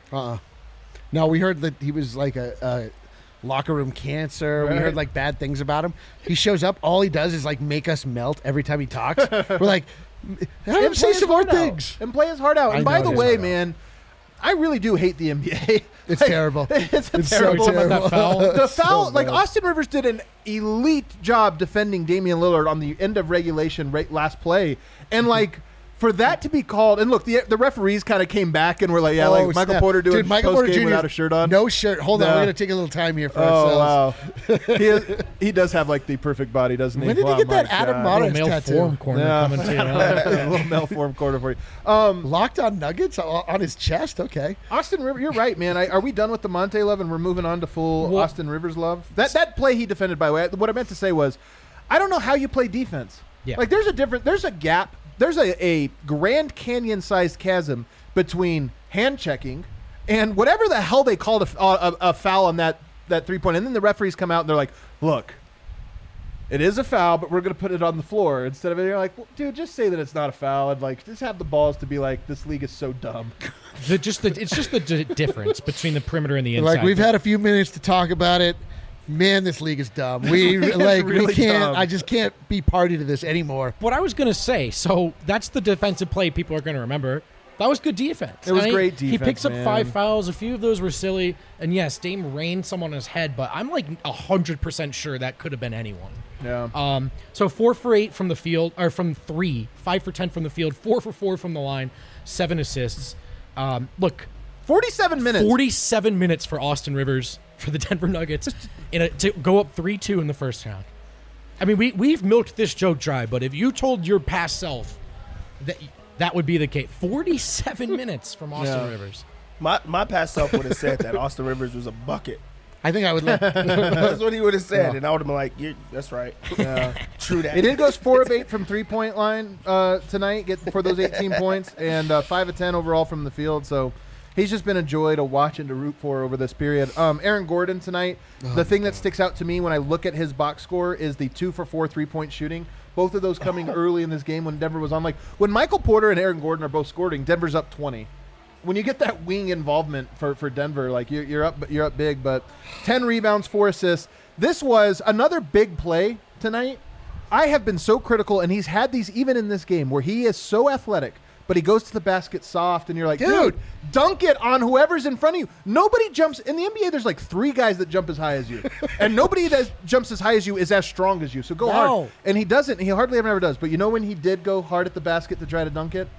No, we heard that he was like a locker room cancer. Right. We heard like bad things about him. He shows up. All he does is like make us melt every time he talks. We're like, have him say some more things. And play his heart out. And I by know the it is way, hard out. man, I really do hate the NBA. It's terrible. It's It's so terrible. terrible. That foul? The foul, So like bad. Austin Rivers did an elite job defending Damian Lillard on the end of regulation last play. And like, for that to be called, and look, the referees kind of came back and were like, yeah, Oh, like Michael snap. Porter doing Dude, Michael post Porter game Jr. without a shirt on. No shirt. Hold on. No. We're going to take a little time here for Oh, ourselves. wow. he does have like the perfect body, doesn't he? When did he Wow, get that my Adam God. Modern Little male tattoo. form corner Yeah. coming to you. A little malformed quarter for you. Locked on Nuggets on his chest? Okay. Austin Rivers, you're right, man. Are we done with the Monte love and we're moving on to full Well- Austin Rivers love? That play he defended, by the way, what I meant to say was, I don't know how you play defense. Yeah. Like, there's a gap. There's a Grand Canyon-sized chasm between hand checking and whatever the hell they called a foul on that three-point. And then the referees come out and they're like, look, it is a foul, but we're going to put it on the floor. Instead of it, you're like, well, dude, just say that it's not a foul. And, like, just have the balls to be like, this league is so dumb. It's just the difference between the perimeter and the inside. Like, we've had a few minutes to talk about it. Man, this league is dumb. We really we can't. dumb. I just can't be party to this anymore. What I was going to say, so that's the defensive play people are going to remember. That was good defense. It was I mean, great He defense, picks up man. 5 fouls. A few of those were silly. And yes, Dame rained someone on his head, but I'm like 100% sure that could have been anyone. Yeah. So 4 for 8 from the field, or from 3, 5 for 10 from the field, 4 for 4 from the line, 7 assists. Look, 47 minutes. 47 minutes for Austin Rivers for the Denver Nuggets to go up 3-2 in the first round. I mean, we've milked this joke dry, but if you told your past self that would be the case, 47 minutes from Austin Rivers. My past self would have said that Austin Rivers was a bucket. I think I would let. That's what he would have said, and I would have been like, that's right. True that. He did goes 4 of 8 from 3-point line tonight, get for those 18 points, and 5 of 10 overall from the field. So he's just been a joy to watch and to root for over this period. Aaron Gordon tonight, the thing that sticks out to me when I look at his box score is the 2 for 4 3-point shooting. Both of those coming early in this game when Denver was on. Like, when Michael Porter and Aaron Gordon are both scoring, Denver's up 20. when you get that wing involvement for Denver, like you're up big. But 10 rebounds, 4 assists. This was another big play tonight. I have been so critical, and he's had these even in this game where he is so athletic, but he goes to the basket soft, and you're like, dude, dunk it on whoever's in front of you. Nobody jumps. In the NBA, there's like 3 guys that jump as high as you, and nobody that jumps as high as you is as strong as you, so go hard. And he doesn't. He hardly ever does. But you know when he did go hard at the basket to try to dunk it?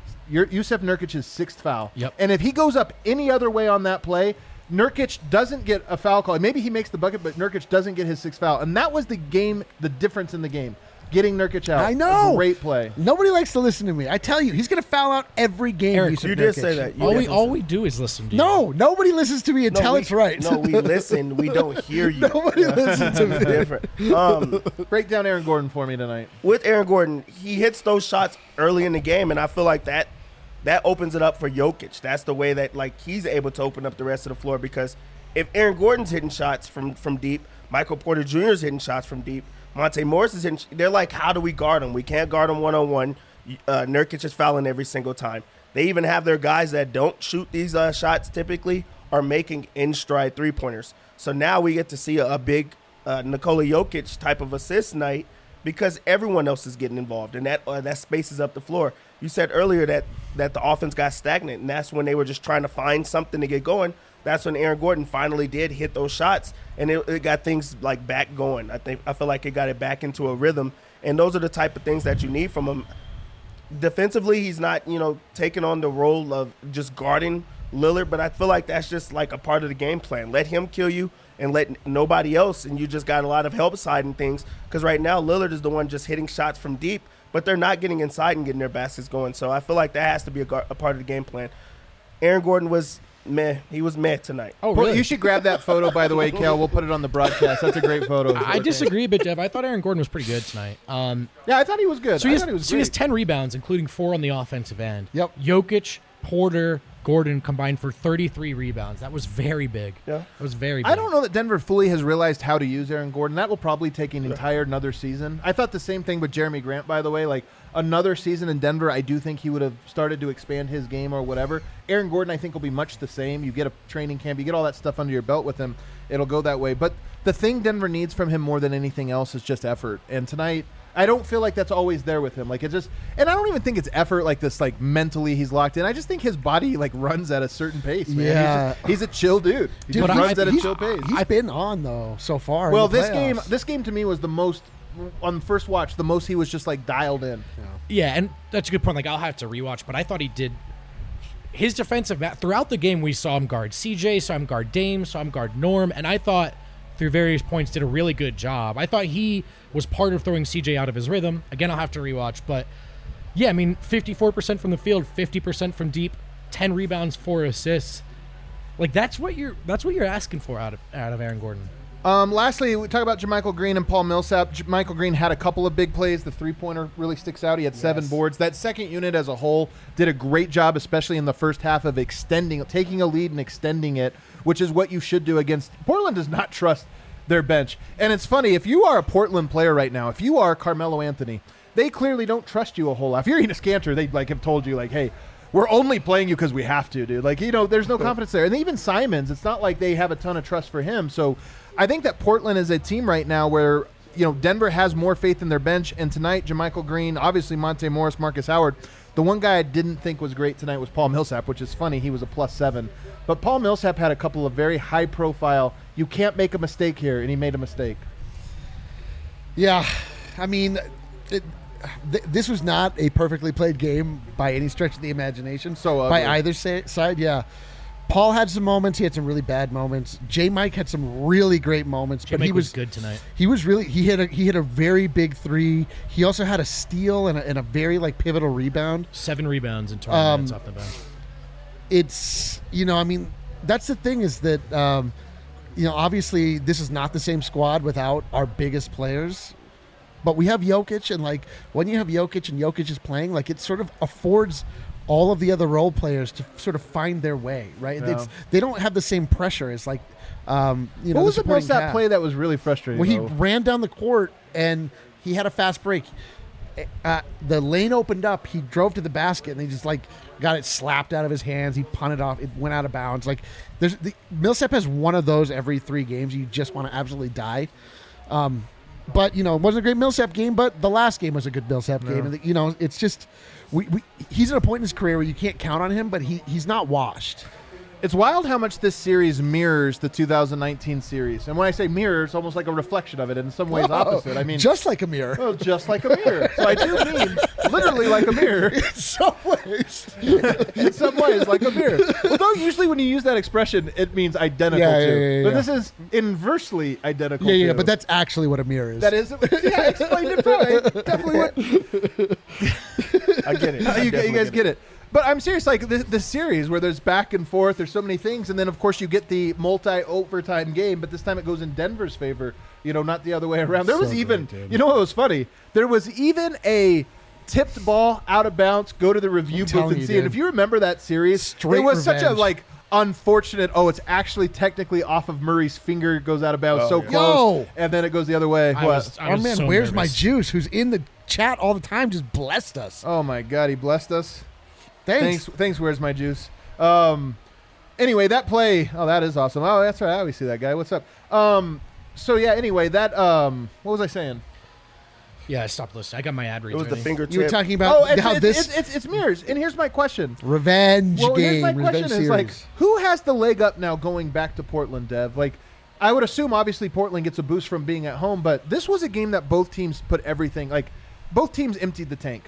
Yusef Nurkic's 6th foul. Yep. And if he goes up any other way on that play, Nurkic doesn't get a foul call. Maybe he makes the bucket, but Nurkic doesn't get his 6th foul. And that was the difference in the game. Getting Nurkic out. I know. Great play. Nobody likes to listen to me. I tell you, he's going to foul out every game. Eric, You did say that. All we do is listen to you. No, nobody listens to me until it's right. No, we listen. We don't hear you. Nobody listens to me. It's different. Break down Aaron Gordon for me tonight. With Aaron Gordon, he hits those shots early in the game, and I feel like that opens it up for Jokic. That's the way that like he's able to open up the rest of the floor, because if Aaron Gordon's hitting shots from deep, Michael Porter Jr. is hitting shots from deep, Monte Morris is hitting, they're like, how do we guard him? We can't guard him one-on-one. Nurkic is fouling every single time. They even have their guys that don't shoot these shots typically are making in-stride three-pointers. So now we get to see a big Nikola Jokic type of assist night because everyone else is getting involved, and that spaces up the floor. You said earlier that the offense got stagnant, and that's when they were just trying to find something to get going. That's when Aaron Gordon finally did hit those shots, and it got things like back going. I feel like it got it back into a rhythm, and those are the type of things that you need from him. Defensively, he's not, taking on the role of just guarding Lillard, but I feel like that's just like a part of the game plan. Let him kill you and let nobody else, and you just got a lot of help side and things, because right now Lillard is the one just hitting shots from deep, but they're not getting inside and getting their baskets going. So I feel like that has to be a part of the game plan. Aaron Gordon was meh. He was meh tonight. Oh, really? You should grab that photo, by the way, Kale. We'll put it on the broadcast. That's a great photo. I disagree, but Jeff, I thought Aaron Gordon was pretty good tonight. Yeah, I thought he was good. So he has great. 10 rebounds, including 4 on the offensive end. Yep. Jokic, Porter, Gordon combined for 33 rebounds. That was very big. Yeah. That was very big. I don't know that Denver fully has realized how to use Aaron Gordon. That will probably take an entire another season. I thought the same thing with Jeremy Grant, by the way. Like, another season in Denver, I do think he would have started to expand his game or whatever. Aaron Gordon, I think, will be much the same. You get a training camp, you get all that stuff under your belt with him, it'll go that way. But the thing Denver needs from him more than anything else is just effort. And tonight, I don't feel like that's always there with him. Like, it just, and I don't even think it's effort like this, like mentally he's locked in. I just think his body like runs at a certain pace, man. Yeah. He's a chill dude. He just runs at a chill pace. He's been on though so far. Well, in the this playoffs. game to me was the most, on the first watch, the most he was just like dialed in. Yeah, and that's a good point. Like, I'll have to rewatch, but I thought he did his defensive throughout the game. We saw him guard CJ, saw him guard Dame, saw him guard Norm, and I thought through various points did a really good job. I thought he was part of throwing CJ out of his rhythm. Again, I'll have to rewatch, but yeah, I mean, 54% from the field, 50% from deep, 10 rebounds, 4 assists. Like, that's what you're asking for out of Aaron Gordon. Lastly, we talk about JaMychal Green and Paul Millsap. JaMychal Green had a couple of big plays. The three-pointer really sticks out. He had 7 boards. That second unit as a whole did a great job, especially in the first half, of taking a lead and extending it, which is what you should do against. Portland does not trust their bench. And it's funny, if you are a Portland player right now, if you are Carmelo Anthony, they clearly don't trust you a whole lot. If you're Enes Kanter, they like have told you, like, hey, we're only playing you because we have to, dude. Like, there's no confidence there. And even Simons, it's not like they have a ton of trust for him. So I think that Portland is a team right now where, Denver has more faith in their bench. And tonight, JaMychal Green, obviously Monte Morris, Marcus Howard. The one guy I didn't think was great tonight was Paul Millsap, which is funny. He was a +7. But Paul Millsap had a couple of very high-profile, you can't make a mistake here, and he made a mistake. Yeah, I mean, this was not a perfectly played game by any stretch of the imagination. So by either side, yeah. Paul had some moments. He had some really bad moments. J-Mike had some really great moments. But he was good tonight. He was really he hit a very big 3. He also had a steal and a very pivotal rebound. 7 rebounds in 20 minutes off the bench. It's I mean, that's the thing is that obviously this is not the same squad without our biggest players. But we have Jokic, and when you have Jokic and Jokic is playing, it sort of affords all of the other role players to sort of find their way, right? Yeah. They don't have the same pressure as what was the Millsap play that was really frustrating? Well, he ran down the court and he had a fast break. the lane opened up. He drove to the basket and he just like got it slapped out of his hands. He punted off. It went out of bounds. Like Millsap has one of those every 3 games. You just want to absolutely die. But it wasn't a great Millsap game. But the last game was a good Millsap game. And it's just he's at a point in his career where you can't count on him. But he's not washed. It's wild how much this series mirrors the 2019 series. And when I say mirror, it's almost like a reflection of it. In some ways, opposite. I mean, just like a mirror. well, just like a mirror. So I do mean literally like a mirror. In some ways. In some ways, like a mirror. Well, usually when you use that expression, it means identical to. But this is inversely identical to. Yeah, but that's actually what a mirror is. That is. Yeah, I explained it right. Definitely what. I get it. You guys get it. But I'm serious, like this series where there's back and forth, there's so many things, and then of course you get the multi-overtime game, but this time it goes in Denver's favor, not the other way around. There was even, what was funny? There was even a tipped ball out of bounds, go to the review booth and see it. If you remember that series, it was such a unfortunate, it's actually technically off of Murray's finger, goes out of bounds close, and then it goes the other way. Our man, so where's my juice? Who's in the chat all the time, just blessed us. Oh my God, he blessed us. Thanks. Where's my juice? Anyway, that play. Oh, that is awesome. Oh, that's right. I always see that guy. What's up? So yeah. Anyway, that. What was I saying? Yeah, I stopped listening. I got my ad reads. It was the ready. fingertip. You were talking about how it's mirrors. And here's my question. Revenge well, game. Here's my question revenge is series. who has the leg up now going back to Portland, Dev? I would assume obviously Portland gets a boost from being at home, but this was a game that both teams put everything. Both teams emptied the tank.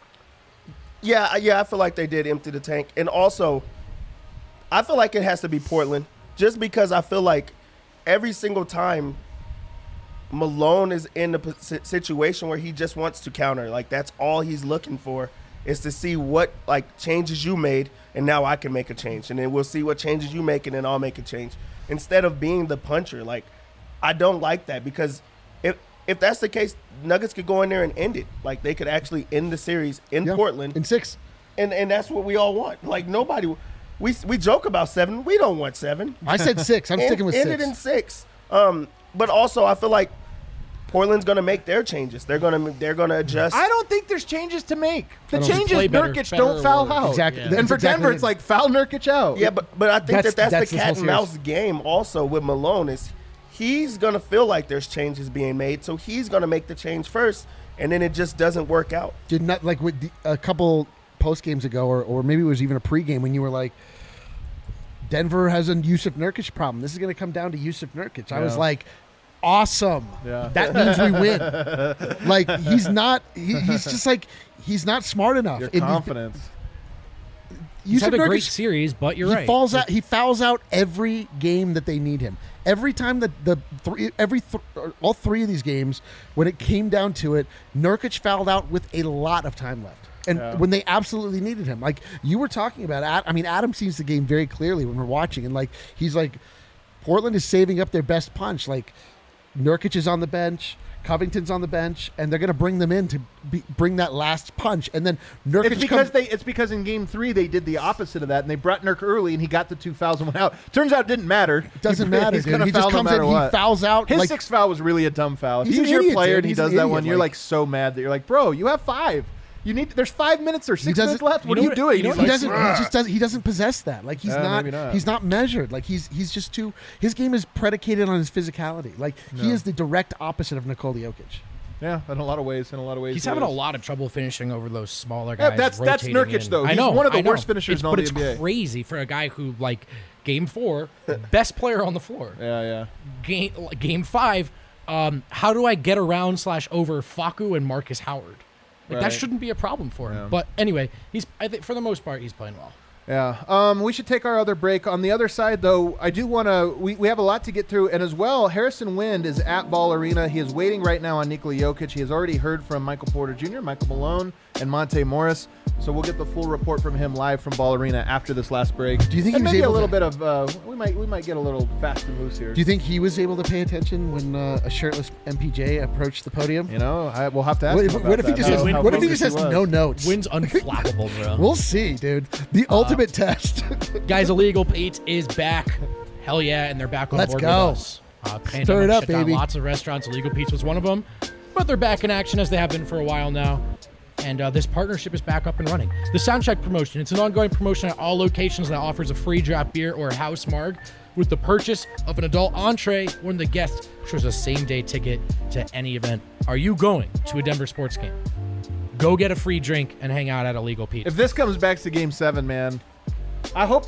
Yeah, I feel like they did empty the tank. And also, I feel like it has to be Portland just because I feel like every single time Malone is in a situation where he just wants to counter. That's all he's looking for is to see what, changes you made, and now I can make a change. And then we'll see what changes you make, and then I'll make a change. Instead of being the puncher. I don't like that because if that's the case, Nuggets could go in there and end it. They could actually end the series in Portland. In 6. And that's what we all want. Nobody – we joke about 7. We don't want 7. I said 6. I'm sticking with 6. End it in 6. But also I feel like Portland's going to make their changes. They're going to adjust. I don't think there's changes to make. The change is play better, Nurkic don't foul out. Exactly. And for Denver, it's foul Nurkic out. Yeah, but I think that's this the whole cat and mouse game also with Malone is he's going to feel like there's changes being made, so he's going to make the change first, and then it just doesn't work out. Did not with a couple post games ago, or maybe it was even a pregame when you were like, Denver has a Yusuf Nurkic problem. This is going to come down to Yusuf Nurkic. Yeah. I was like, awesome. Yeah. That means we win. He's not. He's just he's not smart enough. Your confidence. He's had a great series, but you're right. He fouls out every game that they need him. Every time all 3 of these games, when it came down to it, Nurkic fouled out with a lot of time left. And when they absolutely needed him, you were talking about, Adam sees the game very clearly when we're watching, and he's like, Portland is saving up their best punch. Nurkic is on the bench, Covington's on the bench, and they're going to bring them in to bring that last punch. And then Nurkic it's because in Game 3 they did the opposite of that, and they brought Nurk early, and he got the 2 fouls and went out. Turns out it didn't matter. Doesn't matter, dude. He just comes in, he fouls out. His 6th foul was really a dumb foul. If he's he's an your idiot, player dude. and he He's does an that idiot. one, you're so mad that you're like, bro, you have 5. There's 5 minutes or 6 minutes left. What are you doing? He doesn't possess that. He's not measured. He's just too. His game is predicated on his physicality. He is the direct opposite of Nikola Jokic. Yeah, in a lot of ways. He's having a lot of trouble finishing over those smaller guys. Yeah, that's Nurkic though. He's one of the worst finishers in all the NBA. But it's crazy for a guy who Game 4, best player on the floor. Yeah. Game 5, how do I get around / over Facu and Marcus Howard? That shouldn't be a problem for him. Yeah. But anyway, I think for the most part, he's playing well. Yeah. We should take our other break. On the other side, though, I do want to... We have a lot to get through. And as well, Harrison Wind is at Ball Arena. He is waiting right now on Nikola Jokic. He has already heard from Michael Porter Jr., Michael Malone, and Monte Morris. So we'll get the full report from him live from Ball Arena after this last break. Do you think and he was maybe able a little bit of... we might get a little fast and loose here. Do you think he was able to pay attention when a shirtless MPJ approached the podium? We'll have to ask him what if he just has no notes? Wind's unflappable, bro. We'll see, dude. The ultimate test. Guys, Illegal Pete is back. Hell yeah, and they're back on board with us. Stir it up, baby. Lots of restaurants. Illegal Pete's was one of them. but they're back in action as they have been for a while now. And this partnership is back up and running. The Soundcheck promotion, it's an ongoing promotion at all locations that offers a free draft beer or house marg with the purchase of an adult entree when the guest shows a same-day ticket to any event. Are you going to a Denver sports game? Go get a free drink and hang out at Illegal Pete's. If this comes back to Game 7, man, I hope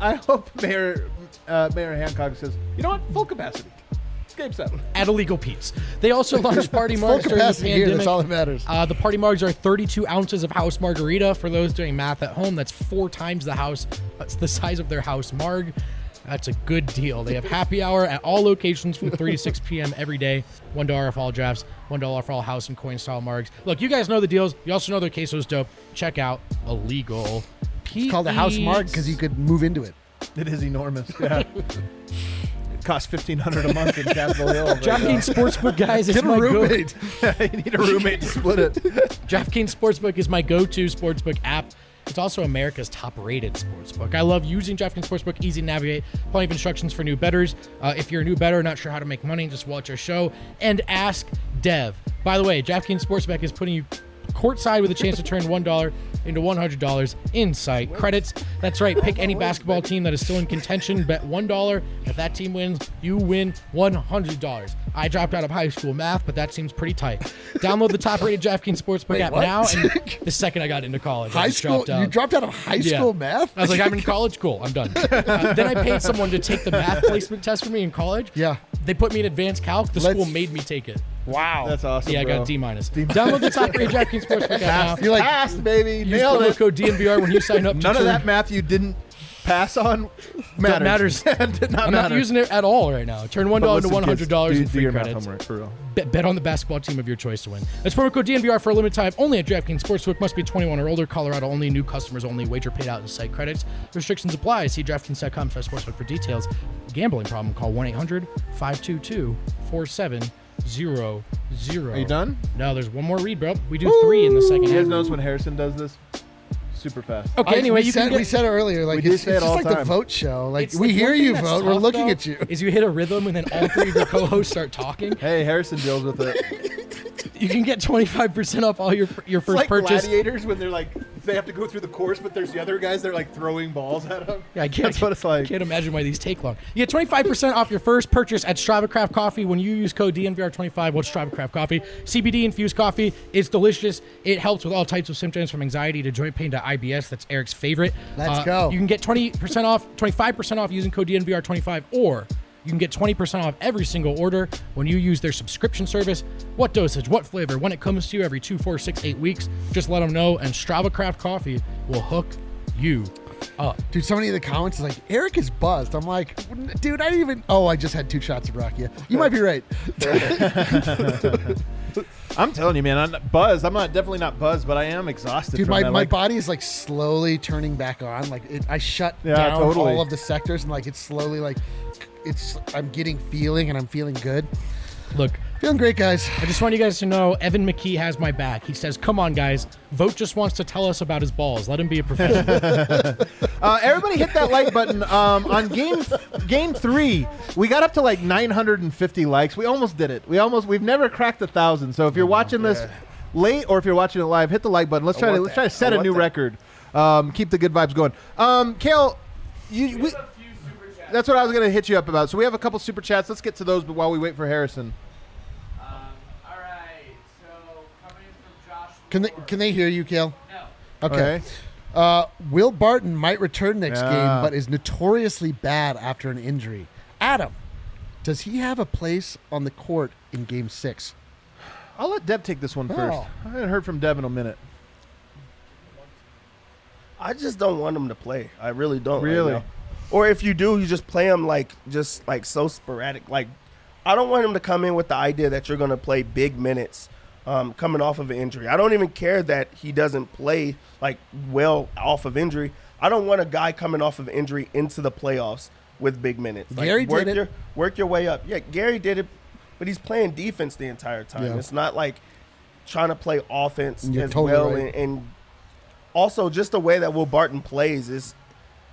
Mayor Hancock says, you know what, full capacity. It's Game 7. At Illegal Pete's. They also launched party Full margs during the capacity here. pandemic. That's all that matters. The party margs are 32 ounces of house margarita. For those doing math at home, that's 4 times that's the size of their house marg. That's a good deal. They have happy hour at all locations from 3 to 6 p.m. every day. $1 for all drafts, $1 for all house and coin style margs. Look, you guys know the deals. You also know their queso's dope. Check out Illegal Pete's. It's called a house marg because you could move into it. It is enormous. Yeah. It costs $1,500 a month in Capitol Hill. DraftKings Sportsbook, guys, is Get a my roommate. You need a roommate to split it. DraftKings Sportsbook is my go-to sportsbook app. It's also America's top-rated sportsbook. I love using DraftKings Sportsbook. Easy to navigate. Plenty of instructions for new bettors. If you're a new bettor, not sure how to make money, just watch our show and ask Dev. By the way, DraftKings Sportsbook is putting you courtside with a chance to turn $1 into $100 in site credits. That's right. Pick any basketball team that is still in contention. Bet $1. If that team wins, you win $100. I dropped out of high school math, but that seems pretty tight. Download the top-rated DraftKings Sportsbook app what? now. And the second I got into college, I High just school? dropped out. You dropped out of high school math? I was like, I'm in college. Cool, I'm done. Then I paid someone to take the math placement test for me in college. Yeah. They put me in advanced calc. The Let's- school made me take it. Wow. That's awesome. Yeah, I bro. got a D-. Download the top-rated DraftKings Sportsbook app now. You're like, Passed, baby. Use Nailed promo it. code DNVR when you sign up. None of that math you didn't pass on matters. matters. Did not I'm matter. not using it at all right now. Turn $1 into But listen, $100 kids, in do free your math credits. homework, for real. Bet on the basketball team of your choice to win. That's promo code DNVR for a limited time only at DraftKings Sportsbook. Must be 21 or older. Colorado only. New customers only. Wager paid out in site credits. Restrictions apply. See DraftKings.com/sportsbook for details. Gambling problem? Call 1-800-522-4700. Are you done? No, there's one more read, bro. We do 3 in the second You guys half. notice when Harrison does this? Super fast. Okay, anyway, we said it earlier. Like, We do it's say it just all like the the time. vote show. Like, It's we the hear one thing you that's vote. We're tough, looking though, at you. Is you hit a rhythm and then all 3 of your co-hosts start talking. Hey, Harrison deals with it. You can get 25% off all your first It's like purchase. gladiators when they're like, they have to go through the course, but there's the other guys that are like throwing balls at them. Yeah, I can't, That's what it's like. I can't imagine why these take long. You get 25% off your first purchase at Strava Craft Coffee when you use code DNVR25. What's Strava Craft Coffee? CBD infused coffee. It's delicious. It helps with all types of symptoms from anxiety to joint pain to IBS. That's Eric's favorite. Let's go. You can get 20% off, 25% off using code DNVR25, or you can get 20% off every single order when you use their subscription service. What dosage, what flavor, when it comes to you every 2, 4, 6, 8 weeks, just let them know, and Strava Craft Coffee will hook you up. Dude, so many of the comments is like, Eric is buzzed. I'm like, dude, I didn't even. Oh, I just had 2 shots of Rakia. You might be right. I'm telling you, man, I'm not buzzed. I'm not definitely not buzzed, but I am exhausted. Dude, from my that. my Like, body is like slowly turning back on. Like, I shut Yeah, down totally. all of the sectors, and like it's slowly like, I'm getting feeling, and I'm feeling good. Look, Feeling great, guys. I just want you guys to know Evan McKee has my back. He says, come on, guys. Vote just wants to tell us about his balls. Let him be a professional. Everybody hit that like button. On game 3, we got up to like 950 likes. We almost did it. We've never cracked 1,000. So if you're watching this late or if you're watching it live, hit the like button. Let's try to set a new record. Keep the good vibes going. Kale, that's what I was going to hit you up about. So we have a couple super chats. Let's get to those while we wait for Harrison. All right. So coming from Josh. Can they hear you, Kale? No. Okay. Will Barton might return next Yeah. game, but is notoriously bad after an injury. Adam, does he have a place on the court in Game 6? I'll let Deb take this one first. Oh. I haven't heard from Deb in a minute. I just don't want him to play. I really don't. right Really? now. Or if you do, you just play him like so sporadic. Like, I don't want him to come in with the idea that you're going to play big minutes coming off of an injury. I don't even care that he doesn't play like well off of injury. I don't want a guy coming off of injury into the playoffs with big minutes. Like, Gary did it. Work your way up. Yeah, Gary did it, but he's playing defense the entire time. Yeah. It's not like trying to play offense You're as totally well. right. And also just the way that Will Barton plays is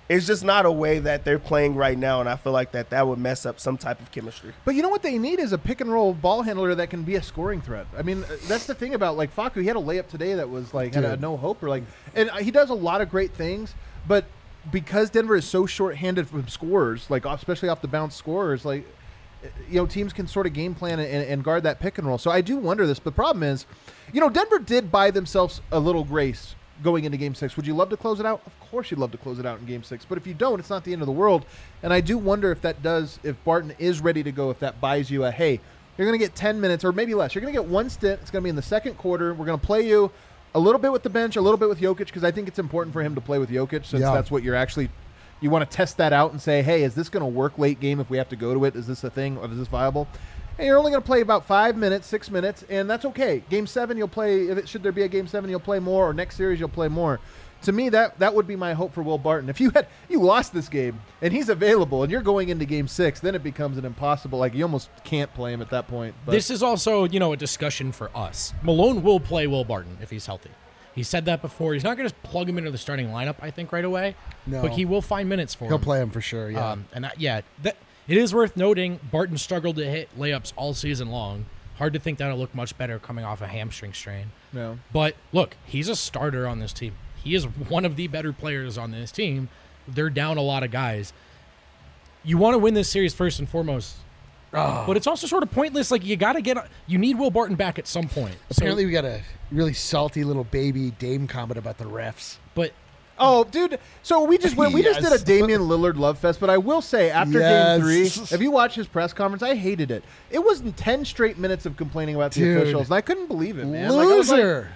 it's just not a way that they're playing right now, and I feel like that would mess up some type of chemistry. But you know what they need is a pick and roll ball handler that can be a scoring threat. I mean, that's the thing about like Facu. He had a layup today that was like had a no hope or like, and he does a lot of great things. But because Denver is so short-handed from scorers, like especially off the bounce scorers, like teams can sort of game plan and guard that pick and roll. So I do wonder this. But the problem is, Denver did buy themselves a little grace going into Game 6. Would you love to close it out? Of course you'd love to close it out in Game 6. But if you don't, it's not the end of the world. And I do wonder if Barton is ready to go, if that buys you hey, you're going to get 10 minutes or maybe less. You're going to get one stint. It's going to be in the second quarter. We're going to play you a little bit with the bench, a little bit with Jokic, because I think it's important for him to play with Jokic since that's what you want to test that out and say, hey, is this going to work late game if we have to go to it? Is this a thing or is this viable? And you're only going to play about 5 minutes, 6 minutes, and that's okay. Game 7, you'll play. Should there be a Game 7, you'll play more, or next series, you'll play more. To me, that would be my hope for Will Barton. If you lost this game and he's available and you're going into Game 6, then it becomes an impossible. Like you almost can't play him at that point. But this is also a discussion for us. Malone will play Will Barton if he's healthy. He said that before. He's not going to just plug him into the starting lineup, I think, right away. No. But he will find minutes for him. He'll play him for sure, yeah. It is worth noting Barton struggled to hit layups all season long. Hard to think that'll look much better coming off a hamstring strain. No. But, look, he's a starter on this team. He is one of the better players on this team. They're down a lot of guys. You want to win this series first and foremost. But it's also sort of pointless. Like, you need Will Barton back at some point. Apparently we got a really salty little baby Dame comment about the refs. But oh, dude. So we just did a Damian Lillard love fest, but I will say after Game 3, if you watch his press conference, I hated it. It was 10 straight minutes of complaining about the officials, and I couldn't believe it, man. Loser.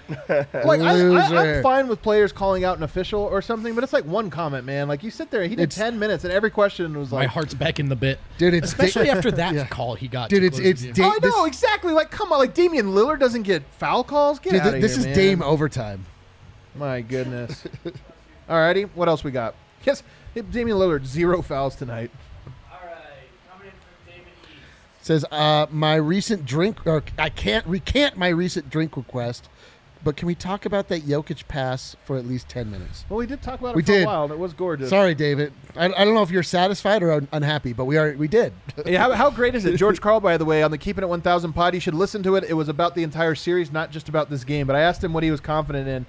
I'm fine with players calling out an official or something, but it's like one comment, man. Like you sit there, he did 10 minutes, and every question was like, my heart's back in the bit, dude. Especially after that call he got. Dude, I know exactly. Like, come on, like Damian Lillard doesn't get foul calls. Get out of here, this is man. Dame overtime. My goodness. Alrighty, what else we got? Yes, Damian Lillard, 0 fouls tonight. All right, coming in from David East. Says, my recent drink, or I can't recant my recent drink request, but can we talk about that Jokic pass for at least 10 minutes? Well, we did talk about it for a while, and it was gorgeous. Sorry, David. I don't know if you're satisfied or unhappy, but we did. Hey, how great is it? George Karl, by the way, on the Keeping It 1000 pod, you should listen to it. It was about the entire series, not just about this game, but I asked him what he was confident in.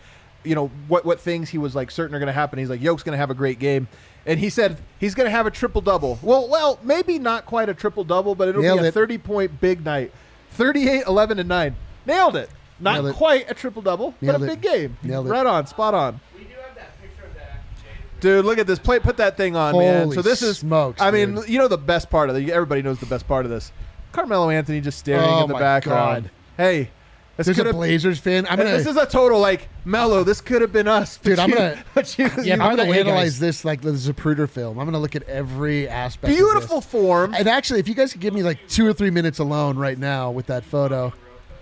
What things he was like certain are going to happen. He's like, Yoke's going to have a great game. And he said he's going to have a triple-double. Well, maybe not quite a triple-double, but it'll be a 30-point big night. 38, 11, and 9. Nailed it. Not quite a triple-double, but a big game. Right on, spot on. We do have that picture of that. Dude, look at this. Put that thing on, man. So this is smokes, mean, dude. the best part of it. Everybody knows the best part of this. Carmelo Anthony just staring in the background. God. Hey. There's a Blazers fan. This is a total Melo. This could have been us, dude. I'm gonna analyze guys, this like the Zapruder film. I'm gonna look at every aspect. Beautiful of this. form. And actually, if you guys could give me like 2 or 3 minutes alone right now with that photo.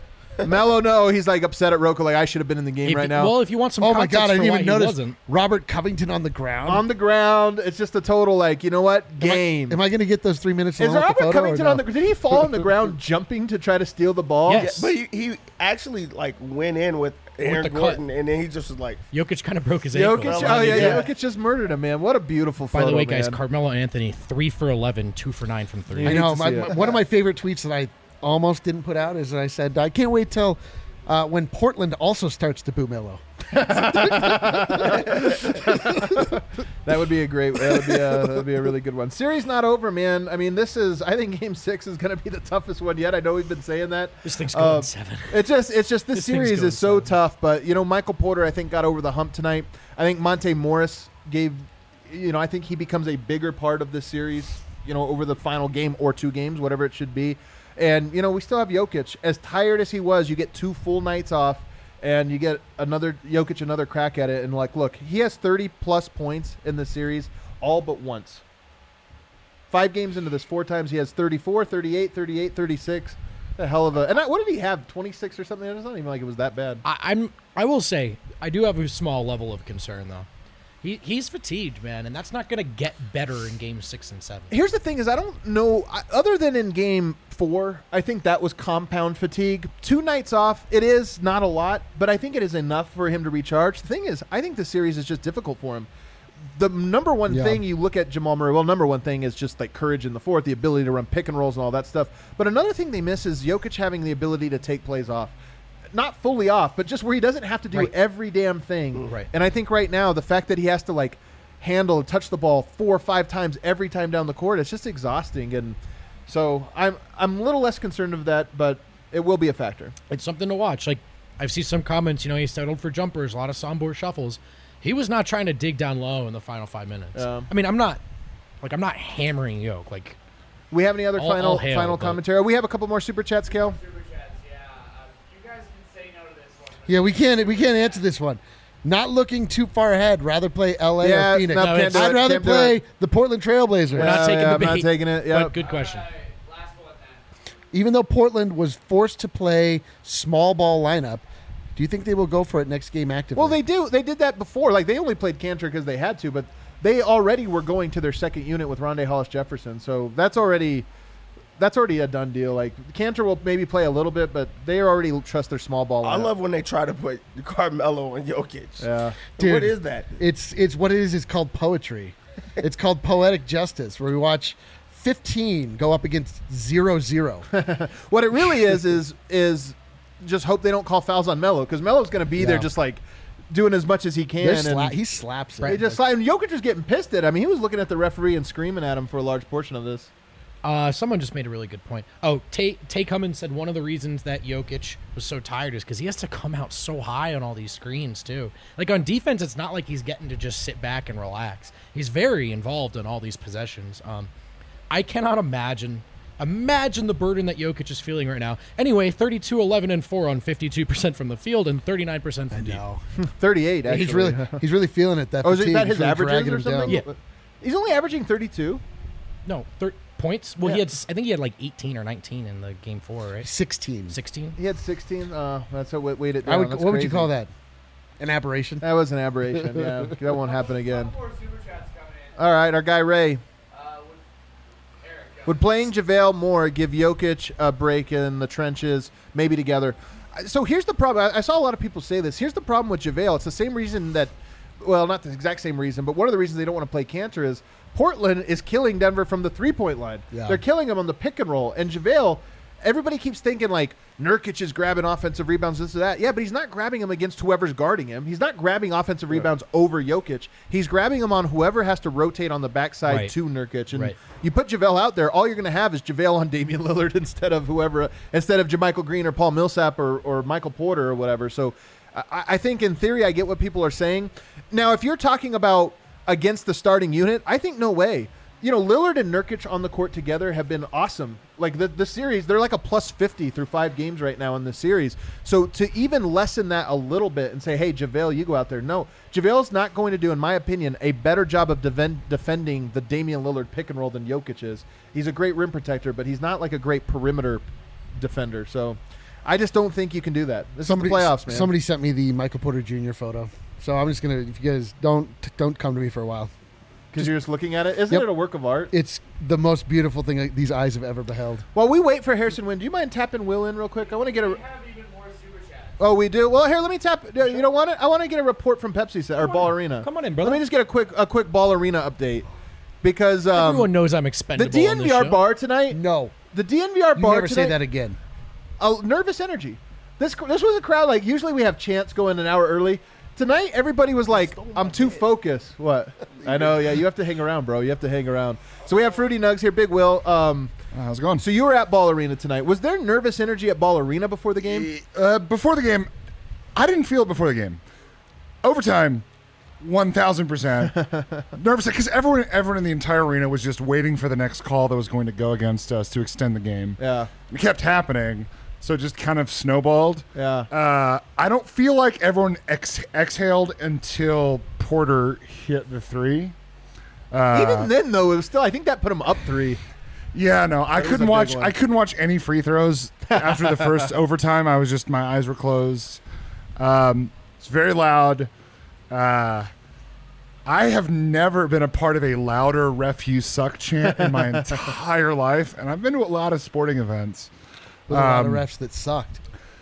Melo, no, he's like upset at Rocco. Like I should have been in the game right now. Well, if you want some, oh my god, I didn't even notice wasn't. Robert Covington on the ground. On the ground, it's just a total game. Am I going to get those 3 minutes? Is Robert Covington on the? Did he fall on the ground jumping to try to steal the ball? Yes, but he actually went in with Aaron Gordon, and then he just was like, Jokic kind of broke his ankle. Jokic just murdered him, man. What a beautiful photo. By the way, guys, Carmelo Anthony 3 for 11, 2 for 9 from 3. I know. One of my favorite tweets that I almost didn't put out is I said I can't wait till. When Portland also starts to boo Melo. That would be a great. That would be a really good one. Series not over, man. I mean, I think Game 6 is going to be the toughest one yet. I know we've been saying that. This thing's going 7. It's just this series is so tough. But Michael Porter, I think, got over the hump tonight. I think Monte Morris gave. I think he becomes a bigger part of this series. Over the final game or 2 games, whatever it should be. And, we still have Jokic. As tired as he was, you get 2 full nights off, and you get Jokic another crack at it. And, look, he has 30-plus points in the series all but once. 5 games into this, 4 times he has 34, 38, 38, 36. A hell of a – and what did he have, 26 or something? It's not even like it was that bad. I will say, I do have a small level of concern, though. He's fatigued, man, and that's not going to get better in Game 6 and 7. Here's the thing is I don't know, other than in Game 4, I think that was compound fatigue. 2 nights off, it is not a lot, but I think it is enough for him to recharge. The thing is, I think the series is just difficult for him. the number one Yeah. thing you look at Jamal Murray, well, number one thing is just like courage in the fourth, the ability to run pick and rolls and all that stuff. But another thing they miss is Jokic having the ability to take plays off. Not fully off, but just where he doesn't have to do Right. every damn thing. Right. And I think right now, the fact that he has to like handle and touch the ball 4 or 5 times every time down the court, it's just exhausting. And so I'm a little less concerned of that, but it will be a factor. It's something to watch. Like, I've seen some comments, he settled for jumpers, a lot of soundboard shuffles. He was not trying to dig down low in the final 5 minutes. I mean, I'm not hammering Yoke. Like, We have any other All hail, final but- commentary? We have a couple more super chats, Kel. Super chats, yeah. You guys can say no to this one. Yeah, we can't answer this one. Not looking too far ahead. Rather play LA Yeah, or Phoenix. no, can't do it, I'd rather can't do play it. the Portland Trailblazers. we're not taking the I'm not bait. taking it. Yeah. But good question. All right, last one then. Even though Portland was forced to play small ball lineup, do you think they will go for it next game actively? Well, they do. They did that before. Like, they only played Cantor because they had to, but they already were going to their second unit with Rondé Hollis Jefferson. So that's already a done deal. Like, Cantor will maybe play a little bit, but they already trust their small ball I lineup. love when they try to put Carmelo and Jokic. Yeah. Dude, What is that? It's what it is. It's called poetry. It's called poetic justice, where we watch 15 go up against 0-0. What it really is just hope they don't call fouls on Melo, because Melo's going to be there Yeah. just like doing as much as he can. And He slaps it. they just and Jokic was getting pissed at him. He was looking at the referee and screaming at him for a large portion of this. Someone just made a really good point. Oh, Tay Cummins said one of the reasons that Jokic was so tired is because he has to come out so high on all these screens, too. Like, on defense, it's not like he's getting to just sit back and relax. He's very involved in all these possessions. I cannot imagine the burden that Jokic is feeling right now. Anyway, 32, 11, and 4 on 52% from the field and 39% from deep. No, 38, actually. he's really feeling it. That Oh, is fatigue that his really averages dragging or him something? down. Yeah. He's only averaging 32. No, points? Well, Yeah. I think he had like 18 or 19 in the game 4, right? 16. 16? He had 16. That's how weight it down. That's What would you crazy. call that? An aberration? That was an aberration. Yeah, that won't happen again. Couple more super chats coming in. All right, our guy Ray. Eric, go. Would playing JaVale more give Jokic a break in the trenches, maybe together? So here's the problem. I saw a lot of people say this. Here's the problem with JaVale. It's the same reason that, well, not the exact same reason, but one of the reasons they don't want to play Cantor is Portland is killing Denver from the three-point line. Yeah. They're killing him on the pick and roll. And JaVale, everybody keeps thinking like Nurkic is grabbing offensive rebounds, this or that. Yeah, but he's not grabbing them against whoever's guarding him. He's not grabbing offensive rebounds over Jokic. He's grabbing them on whoever has to rotate on the backside Right. to Nurkic. And Right. you put JaVale out there, all you're going to have is JaVale on Damian Lillard instead of JaMichael Green or Paul Millsap or Michael Porter or whatever. So I think in theory I get what people are saying. Now, if you're talking about against the starting unit, I think no way. Lillard and Nurkic on the court together have been awesome. Like the series, they're like a plus 50 through 5 games right now in the series. So to even lessen that a little bit and say, hey, JaVale, you go out there. No, JaVale's not going to do, in my opinion, a better job of defending the Damian Lillard pick and roll than Jokic is. He's a great rim protector, but he's not like a great perimeter defender. So I just don't think you can do that. This is the playoffs, man. Somebody sent me the Michael Porter Jr. photo. So I'm just going to, if you guys don't come to me for a while. Because you're just looking at it. Isn't Yep. it a work of art? It's the most beautiful thing like, these eyes have ever beheld. While we wait for Harrison Wynn, do you mind tapping Will in real quick? I want to get a... We have even more super chats. Oh, we do? Well, here, let me tap... You don't want it? I want to get a report from Pepsi or Ball Arena. Come on in, brother. Let me just get a quick Ball Arena update. Because Everyone knows I'm the expendable on this DNVR show. bar tonight... No. The DNVR You bar never tonight... say that again. Nervous energy. This was a crowd, like, usually we have chants going an hour early. Tonight, everybody was like, I'm too focused. What? I know, yeah, you have to hang around, bro. You have to hang around. So we have Fruity Nugs here, Big Will. How's it going? So you were at Ball Arena tonight. Was there nervous energy at Ball Arena before the game? Before the game, I didn't feel it before the game. Overtime, 1,000% nervous because everyone in the entire arena was just waiting for the next call that was going to go against us to extend the game. Yeah. It kept happening, so it just kind of snowballed. Yeah. I don't feel like everyone exhaled until Porter hit the three. Even then, though, it was still. I think that put him up 3. Yeah, no, I was a couldn't big watch. one. I couldn't watch any free throws after the first overtime. I was just my eyes were closed. It's very loud. I have never been a part of a louder "ref you suck" chant in my entire life, and I've been to a lot of sporting events. With a lot of refs that sucked.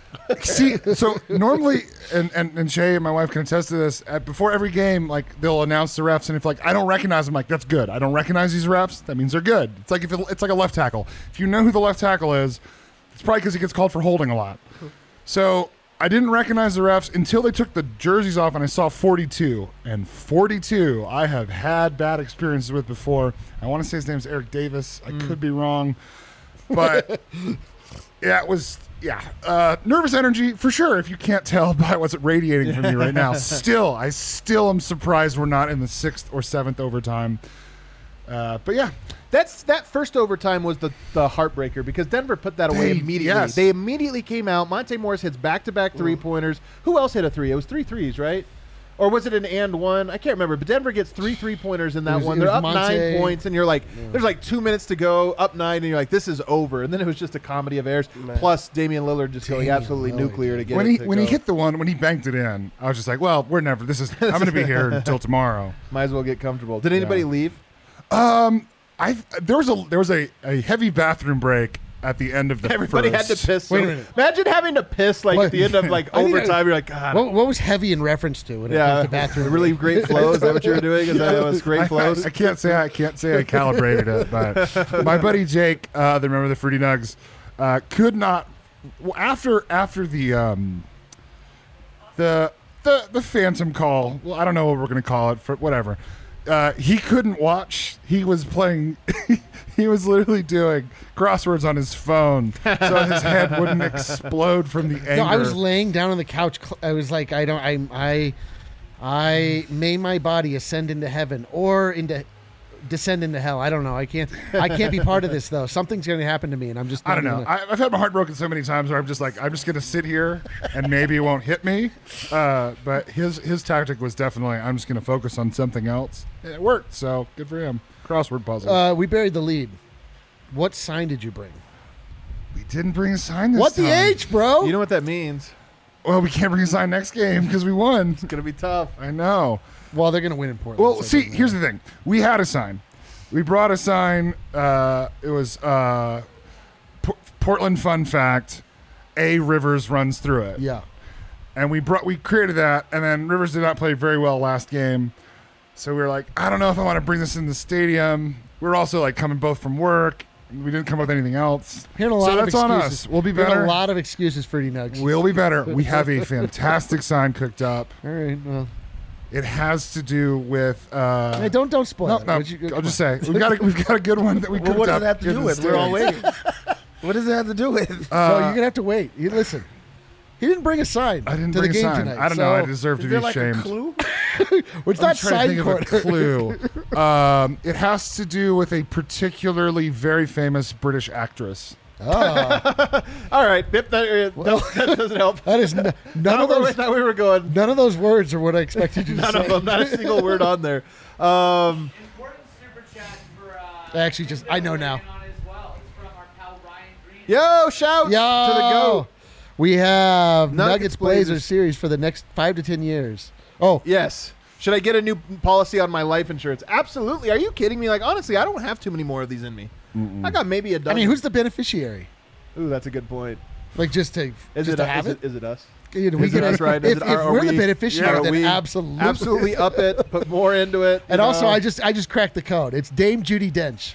See, so normally, and Shay and my wife can attest to this. Before every game, like they'll announce the refs, and if like I don't recognize them, like that's good. I don't recognize these refs. That means they're good. It's like it's like a left tackle. If you know who the left tackle is, it's probably because he gets called for holding a lot. So I didn't recognize the refs until they took the jerseys off, and I saw 42. And 42, I have had bad experiences with before. I want to say his name's Eric Davis. I could be wrong, but yeah, it was. Yeah, nervous energy for sure. If you can't tell by what's radiating from me right now, I still am surprised we're not in the 6th or 7th overtime. But yeah, that first overtime was the heartbreaker because Denver put that away immediately. Yes. They immediately came out. Monte Morris hits back-to-back three-pointers. Who else hit a three? It was 3 threes, right? Or was it an and one? I can't remember. But Denver gets 3 3-pointers in that one. They're up Monte. 9 points, and you're like, there's like 2 minutes to go, up 9, and you're like, this is over. And then it was just a comedy of errors. Plus Damian Lillard just going absolutely nuclear to get when it. he hit the one, when he banked it in, I was just like, well, we're never. I'm going to be here until tomorrow. Might as well get comfortable. Did anybody leave? There was a heavy bathroom break at the end of the Everybody first. had to piss. Wait a minute. Imagine having to piss like at the end of like I need to- overtime. You're like, God. What was heavy in reference to when it comes to bathroom? really great flow. Is that what you were doing? Is that was great flows? I can't say I calibrated it, but my buddy Jake, the member of the Fruity Nugs, could not after the phantom call. Well, I don't know what we're going to call it for whatever. He couldn't watch. He was playing. He was literally doing crosswords on his phone, so his head wouldn't explode from the anger. No, I was laying down on the couch. I was like, I may my body ascend into heaven or descend into hell. I don't know. I can't be part of this though. Something's going to happen to me, and I'm just. I don't know. I've had my heart broken so many times where I'm just like, I'm just going to sit here and maybe it won't hit me. But his tactic was definitely, I'm just going to focus on something else. And it worked, so good for him. Crossword puzzle. We buried the lead. What sign did you bring? We didn't bring a sign this What time. the H, bro? You know what that means? Well, we can't bring a sign next game because we won. It's gonna be tough. I know. Well, they're going to win in Portland. Well, so it see, doesn't here's matter. the thing. We had a sign. We brought a sign. It was Portland Fun Fact. A Rivers runs through it. Yeah. And we created that, and then Rivers did not play very well last game. So we were like, I don't know if I want to bring this in the stadium. We were also like coming both from work. We didn't come up with anything else. Hearing a lot so of that's on excuses. us. We'll be Hearing better. a lot of excuses, Fruity Nugs. We'll be better. We have a fantastic sign cooked up. All right. Well, It has to do with. hey, don't spoil No, it. no. Would you- I'll just say we've got a good one that we cooked Well, what up. does it have to in do the with? We're all stands. waiting. What does it have to do with? no, you're gonna have to wait. You listen. He didn't bring a sign. I didn't to bring the a game sign. tonight. I don't know. I so deserve to Is be there like shamed. a clue? It's I'm not trying to sign think of a corner. clue. It has to do with a particularly very famous British actress. Oh, All right, Bip, that doesn't help. that is none Not of where I those. thought we were going. None of those words are what I expected you to None say. of them. Not a single word on there. Important super chat for. Actually, just- I know now. On as well. It's from our pal Ryan Green. Yo, shouts Yo, to the go. We have Nuggets Nuggets Blazers Blazers series for the next 5 to 10 years. Oh, Yes. Should I get a new policy on my life insurance? Absolutely. Are you kidding me? Like, honestly, I don't have too many more of these in me. I got maybe a I dozen. mean, who's the beneficiary? Ooh, that's a good point. Like just to Is just it to have is it? Is it us? You know, we Is it get us, right? Is If, it- if are we're the we- beneficiary, are then we absolutely, Absolutely up it. Put more into it. And you also, know? I just cracked the code. It's Dame Judi Dench.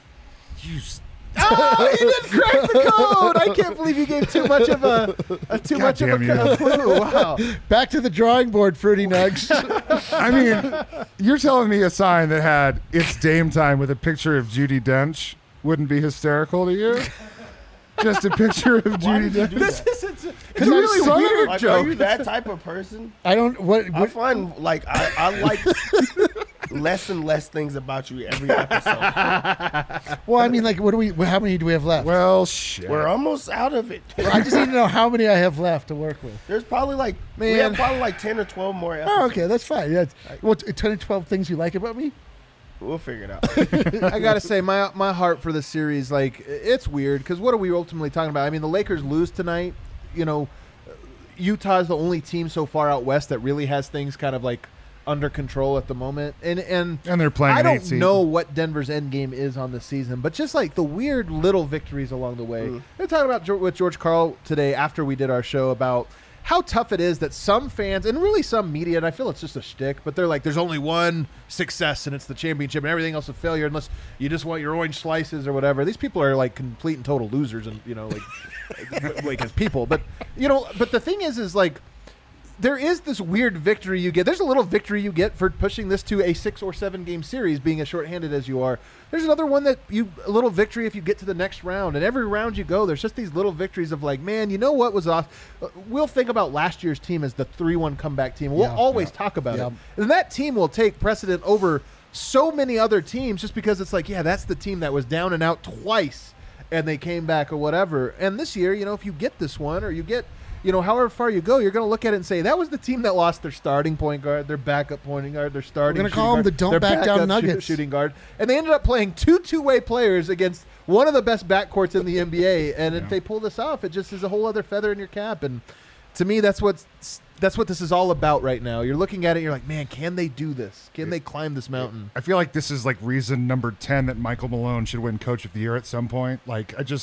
Oh, he didn't crack the code. I can't believe you gave too much of a damn you. clue. Wow. Back to the drawing board, Fruity Nugs. I mean, you're telling me a sign that had "It's Dame Time" with a picture of Judi Dench wouldn't be hysterical to you? Just a picture of Judi Dench. This is a I'm really son of a- weird Like, are joke. you that type of person? I don't. What? I find like I like less and less things about you every episode. Well, I mean, like, what do we? How many do we have left? Well, shit. We're almost out of it. I just need to know how many I have left to work with. There's probably like we Man. have probably like 10 or 12 more episodes. Oh, okay, that's fine. Yeah. What? 10 or 12 things you like about me? We'll figure it out. I gotta say, my heart for the series, like, it's weird because what are we ultimately talking about? I mean, the Lakers lose tonight. You know, Utah's the only team so far out west that really has things kind of like under control at the moment, and they're playing I an don't 8 seed. know what Denver's end game is on the season, but just like the weird little victories along the way. We're talking about with George Karl today after we did our show about how tough it is that some fans and really some media, and I feel it's just a shtick, but they're like, there's only one success and it's the championship and everything else a failure unless you just want your orange slices or whatever. These people are like complete and total losers and, like as people. But, but the thing is like, there is this weird victory you get. There's a little victory you get for pushing this to a 6 or 7 game series, being as shorthanded as you are. There's another one a little victory if you get to the next round. And every round you go, there's just these little victories of like, man, you know what was awesome? We'll think about last year's team as the 3-1 comeback team. We'll always talk about it. And that team will take precedent over so many other teams just because it's like, yeah, that's the team that was down and out twice and they came back or whatever. And this year, if you get this one or you get however far you go, you're going to look at it and say, that was the team that lost their starting point guard, their backup point guard, their starting We're going to call them the don't back down Nuggets. Shooting guard. And they ended up playing 2 two-way players against one of the best backcourts in the NBA. And if they pull this off, it just is a whole other feather in your cap. And to me, that's what this is all about right now. You're looking at it, you're like, man, can they do this? Can they climb this mountain? I feel like this is like reason number 10 that Michael Malone should win Coach of the Year at some point. Like, I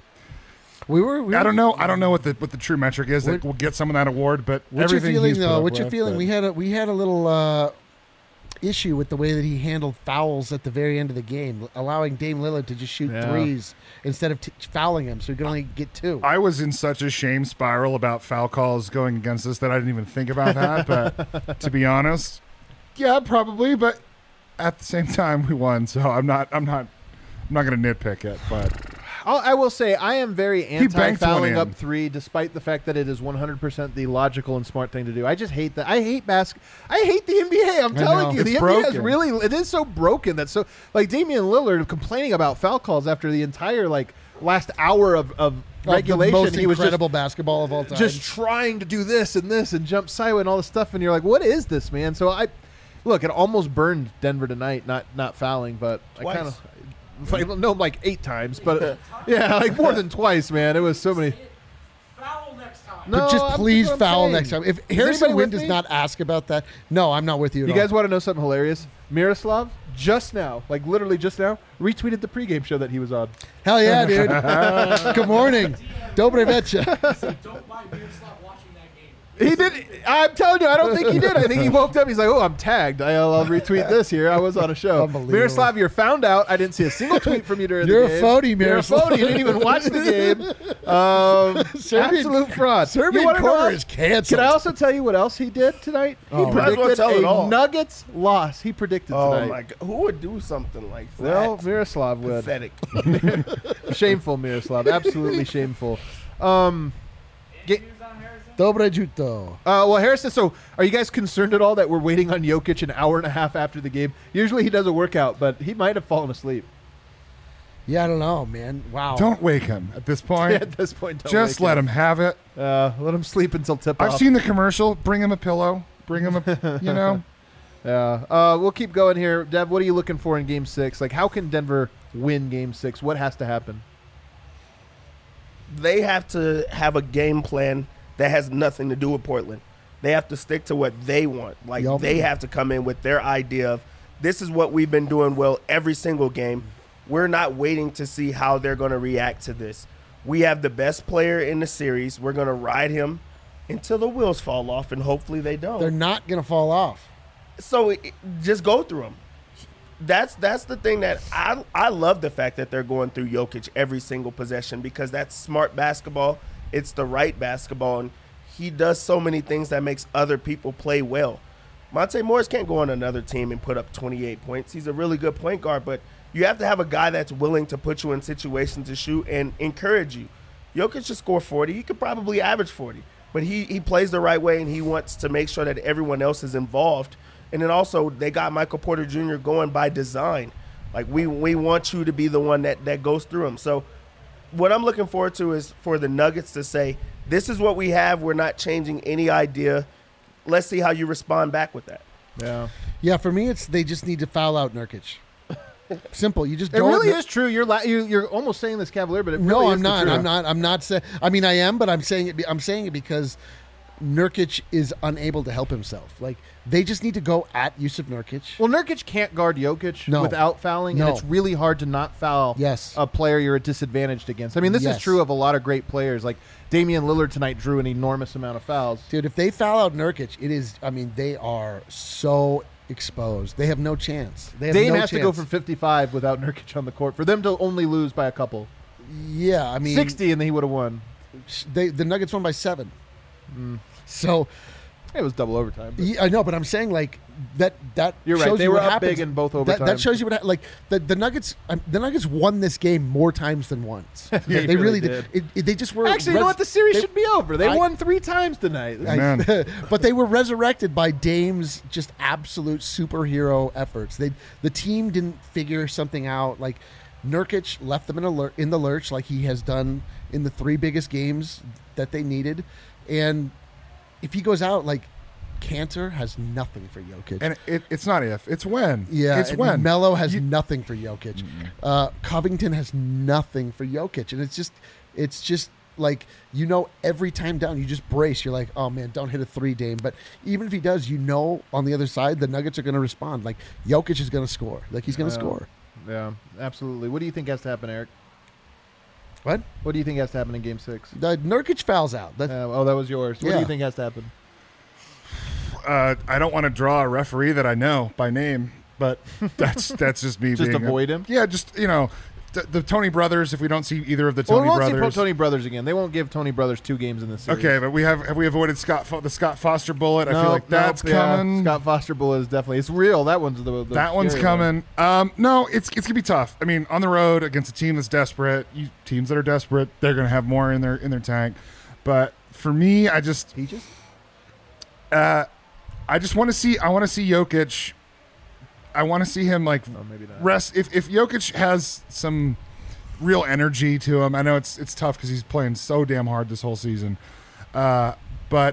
don't know. I don't know what the true metric is that will get someone that award. But what's your feeling, though? What's your with, feeling? We had a little issue with the way that he handled fouls at the very end of the game, allowing Dame Lillard to just shoot threes instead of fouling him, so he could only get 2. I was in such a shame spiral about foul calls going against us that I didn't even think about that. But to be honest, yeah, probably. But at the same time, we won, so I'm not going to nitpick it, but. I will say I am very anti-fouling up in. 3, despite the fact that it is 100% the logical and smart thing to do. I just hate that. I hate the NBA. I'm telling you, it's the broken. NBA is it is so broken that like Damian Lillard complaining about foul calls after the entire last hour of regulation. The most he was incredible basketball of all time. Just trying to do this and jump sideways and all this stuff, and you're like, what is this, man? So it almost burned Denver tonight, not fouling, but Twice. I kind of. Like 8 times, but like more than twice, man. It was so many. Foul next time. But just please foul next time. If Harrison anybody Wind with does me? not ask about that, no, I'm not with you at You all. guys want to know something hilarious? Miroslav just now, like literally just now, retweeted the pregame show that he was on. Hell yeah, dude. Good morning. Dobre večer. Don't buy Miroslav watching that game. He did. I'm telling you, I don't think he did. I think he woke up. He's like, oh, I'm tagged. I'll retweet this here. I was on a show. Unbelievable. Miroslav, you're found out. I didn't see a single tweet from you during You're the game. a phony, Miroslav. You're a phony. You didn't even watch the game. Absolute fraud. Serbian You wanna know corner what? is canceled. Can I also tell you what else he did tonight? He Might as well predicted tell it a all. Nuggets loss. He predicted Oh tonight. my God, who would do something like that? Well, Miroslav would. Pathetic. Shameful, Miroslav. Absolutely shameful. Any news on Harrison? Dobre juto. Well, Harrison, so are you guys concerned at all that we're waiting on Jokic an hour and a half after the game? Usually he does a workout, but he might have fallen asleep. Yeah, I don't know, man. Wow. Don't wake him at this point. At this point, don't Just wake let him have it. Let him sleep until tip-off. I've seen the commercial. Bring him a pillow. Bring him a, Yeah. We'll keep going here. Dev, what are you looking for in Game 6? Like, how can Denver win Game 6? What has to happen? They have to have a game plan that has nothing to do with Portland. They have to stick to what they want. Like, Yup. they have to come in with their idea of, this is what we've been doing well every single game. We're not waiting to see how they're going to react to this. We have the best player in the series. We're going to ride him until the wheels fall off, and hopefully they don't. They're not going to fall off. So just go through them. That's the thing that I love, the fact that they're going through Jokic every single possession, because that's smart basketball. It's the right basketball, and he does so many things that makes other people play well. Monte Morris can't go on another team and put up 28 points. He's a really good point guard, but you have to have a guy that's willing to put you in situations to shoot and encourage you. Jokic should score 40. He could probably average 40, but he plays the right way, and he wants to make sure that everyone else is involved. And then also, they got Michael Porter Jr. going by design. Like, we want you to be the one that goes through them. So what I'm looking forward to is for the Nuggets to say, this is what we have. We're not changing any idea. Let's see how you respond back with that. Yeah. Yeah, for me, it's they just need to foul out Nurkic. Simple. You just It don't. really is true. You're almost saying this cavalier, but it really No, is I'm the not. truth. I'm not saying. I mean, I am, but I'm saying it. I'm saying it because Nurkic is unable to help himself. Like, they just need to go at Yusuf Nurkic. Well, Nurkic can't guard Jokic No. without fouling, No. and it's really hard to not foul Yes. a player you're disadvantaged against. I mean, this is Yes. true of a lot of great players. Like Damian Lillard tonight drew an enormous amount of fouls. Dude, if they foul out Nurkic, it is, I mean, they are so exposed. They have no chance. They have Dame no has to chance. go for 55 without Nurkic on the court for them to only lose by a couple. Yeah, I mean, 60, and then he would have won. the Nuggets won by 7. So, It was double overtime. but- yeah, I know, but I'm saying like that. You're right. shows They you were what up happens. big in both That overtimes. shows you what like the Nuggets. The Nuggets won this game more times than once. They they really really did. did. They just were Actually, you know what? The series they- should be over. They I- won 3 times tonight. Man. but they were resurrected by Dame's just absolute superhero efforts. The team didn't figure something out. Like Nurkic left them in the lurch, like he has done in the 3 biggest games that they needed. And if he goes out, like Cantor has nothing for Jokic. And it's not if, it's when. Yeah, it's and when. Melo has nothing for Jokic. Covington has nothing for Jokic, and it's just like, you know, every time down you just brace. You're like, oh man, don't hit a 3, Dame. But even if he does, you know, on the other side the Nuggets are going to respond. Like Jokic is going to score. Like he's going to score. Yeah, absolutely. What do you think has to happen, Eric? What? What do you think has to happen in Game 6? The Nurkic fouls out. That, Oh, that was yours. What do Yeah. you think has to happen? I don't want to draw a referee that I know by name, but that's just me. Just being avoid him? Yeah, just the Tony brothers. If we don't see either of the Well, Tony we won't brothers, see Tony Brothers again. They won't give Tony Brothers 2 games in this series. okay, but have we avoided the Scott Foster bullet? I feel like that's coming. Scott Foster bullet is definitely, it's real. That one's the That one's scary coming. No, it's gonna be tough. I mean, on the road against a team that's desperate, teams that are desperate, they're gonna have more in their tank. But for me, I just Peaches? want to see. I want to see Jokic. I want to see him like maybe not. rest. If Jokic has some real energy to him, I know it's tough because he's playing so damn hard this whole season. But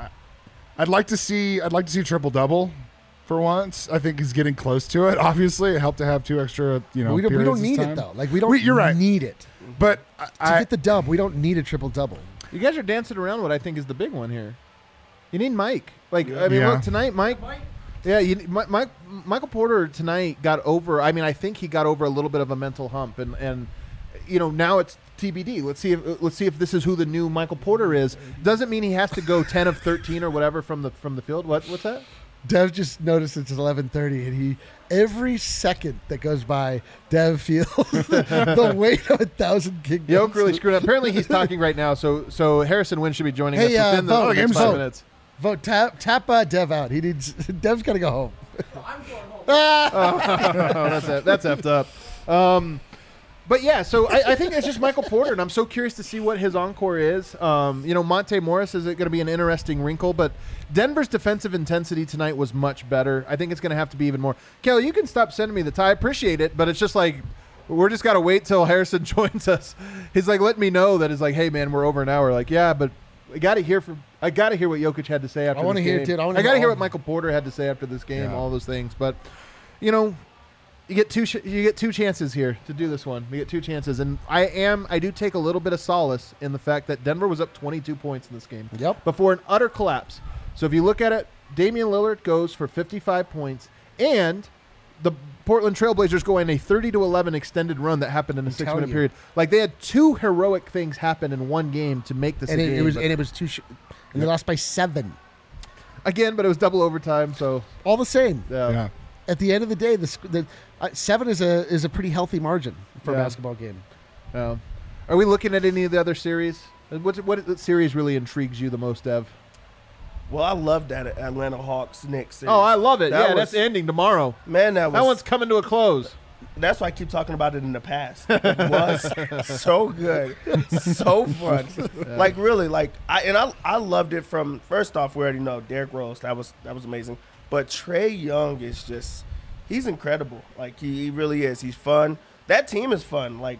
I'd like to see triple double for once. I think he's getting close to it. Obviously, it helped to have 2 extra. we don't periods need this it time. though. Like we don't. You're right. Need it But to get the dub. We don't need a triple double. You guys are dancing around what I think is the big one here. You need Mike. Like, I mean, Yeah. look, tonight, Mike. Yeah, Michael Porter tonight got over. I mean, I think he got over a little bit of a mental hump, and you know, now it's TBD. Let's see if this is who the new Michael Porter is. Doesn't mean he has to go 10 of 13 or whatever from the field. What's that? Dev just noticed it's 11:30, and every second that goes by, Dev feels the weight of 1,000 kingdoms. Yoke really screwed up. Apparently, he's talking right now. So Harrison Wynn should be joining Hey, us within vote. the next Game's 5 vote. minutes. Vote tap Dev out. He needs Dev's got to go home. I'm going home. Oh, that's effed up. But yeah, so I think it's just Michael Porter, and I'm so curious to see what his encore is. You know, Monte Morris is going to be an interesting wrinkle, but Denver's defensive intensity tonight was much better. I think it's going to have to be even more. Kelly, you can stop sending me the tie. I appreciate it, but it's just like we're just got to wait till Harrison joins us. He's like, let me know that it's like, hey man, we're over an hour. Like, yeah, but I got to hear what Jokic had to say after. I wanna this hear game. it, dude. I wanna I got to hear hear all- what Michael Porter had to say after this game. Yeah. All those things, but you know. You get two chances here to do this one. You get 2 chances, and I do take a little bit of solace in the fact that Denver was up 22 points in this game. Yep. Before an utter collapse. So if you look at it, Damian Lillard goes for 55 points, and the Portland Trailblazers go in a 30-11 extended run that happened in a 6-minute you. period. Like they had 2 heroic things happen in one game to make this And a it, game. it was but- and it was and they lost by 7. again, but it was double overtime. So All the same. Yeah. At the end of the day, the 7 is a pretty healthy margin for a Yeah. basketball game. Are we looking at any of the other series? What series really intrigues you the most, Dev? Well, I love that Atlanta Hawks Knicks series. Oh, I love it. That Yeah, was- that's ending tomorrow. Man, That one's coming to a close. That's why I keep talking about it in the past. It was so good, so fun. Like really, like I loved it from first off. We already know Derrick Rose. That was amazing. But Trae Young is just he's incredible. Like he really is. He's fun. That team is fun. Like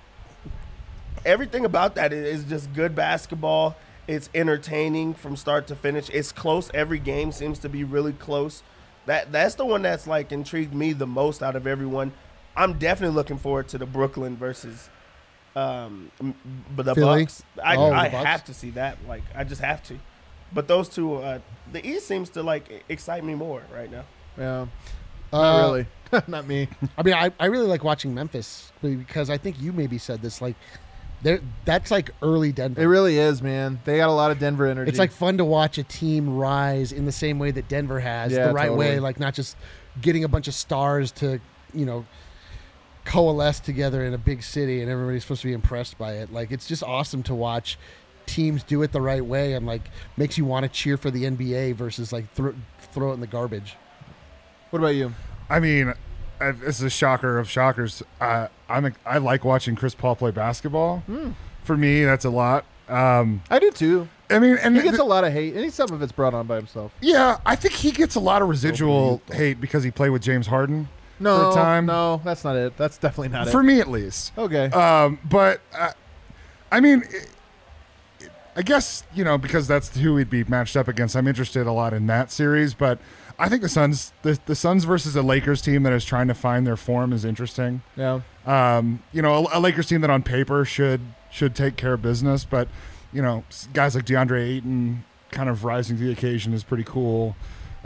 everything about that is just good basketball. It's entertaining from start to finish. It's close. Every game seems to be really close. That's the one that's like intrigued me the most out of everyone. I'm definitely looking forward to the Brooklyn versus the Philly? Bucks. I The Bucks? have to see that. Like I just have to. But those two, the East seems to like excite me more right now. Yeah. Not really. Not me. I mean, I really like watching Memphis because I think you maybe said this. Like, that's like early Denver. It really is, man. They got a lot of Denver energy. It's like fun to watch a team rise in the same way that Denver has, Yeah, the right totally. way. Like, not just getting a bunch of stars to, coalesce together in a big city and everybody's supposed to be impressed by it. Like, it's just awesome to watch teams do it the right way and, like, makes you want to cheer for the NBA versus, like, throw it in the garbage. What about you? I mean, this is a shocker of shockers. I like watching Chris Paul play basketball. For me, that's a lot. I do too. I mean, and He gets a lot of hate, and some of it's brought on by himself. yeah, I think he gets a lot of residual hate because he played with James Harden for a time. No, that's not it. That's definitely not For it. me, at least. Okay. But I mean, I guess because that's who we'd be matched up against. I'm interested a lot in that series, but I think the Suns versus a Lakers team that is trying to find their form is interesting. Yeah. A Lakers team that on paper should take care of business, but guys like DeAndre Ayton kind of rising to the occasion is pretty cool.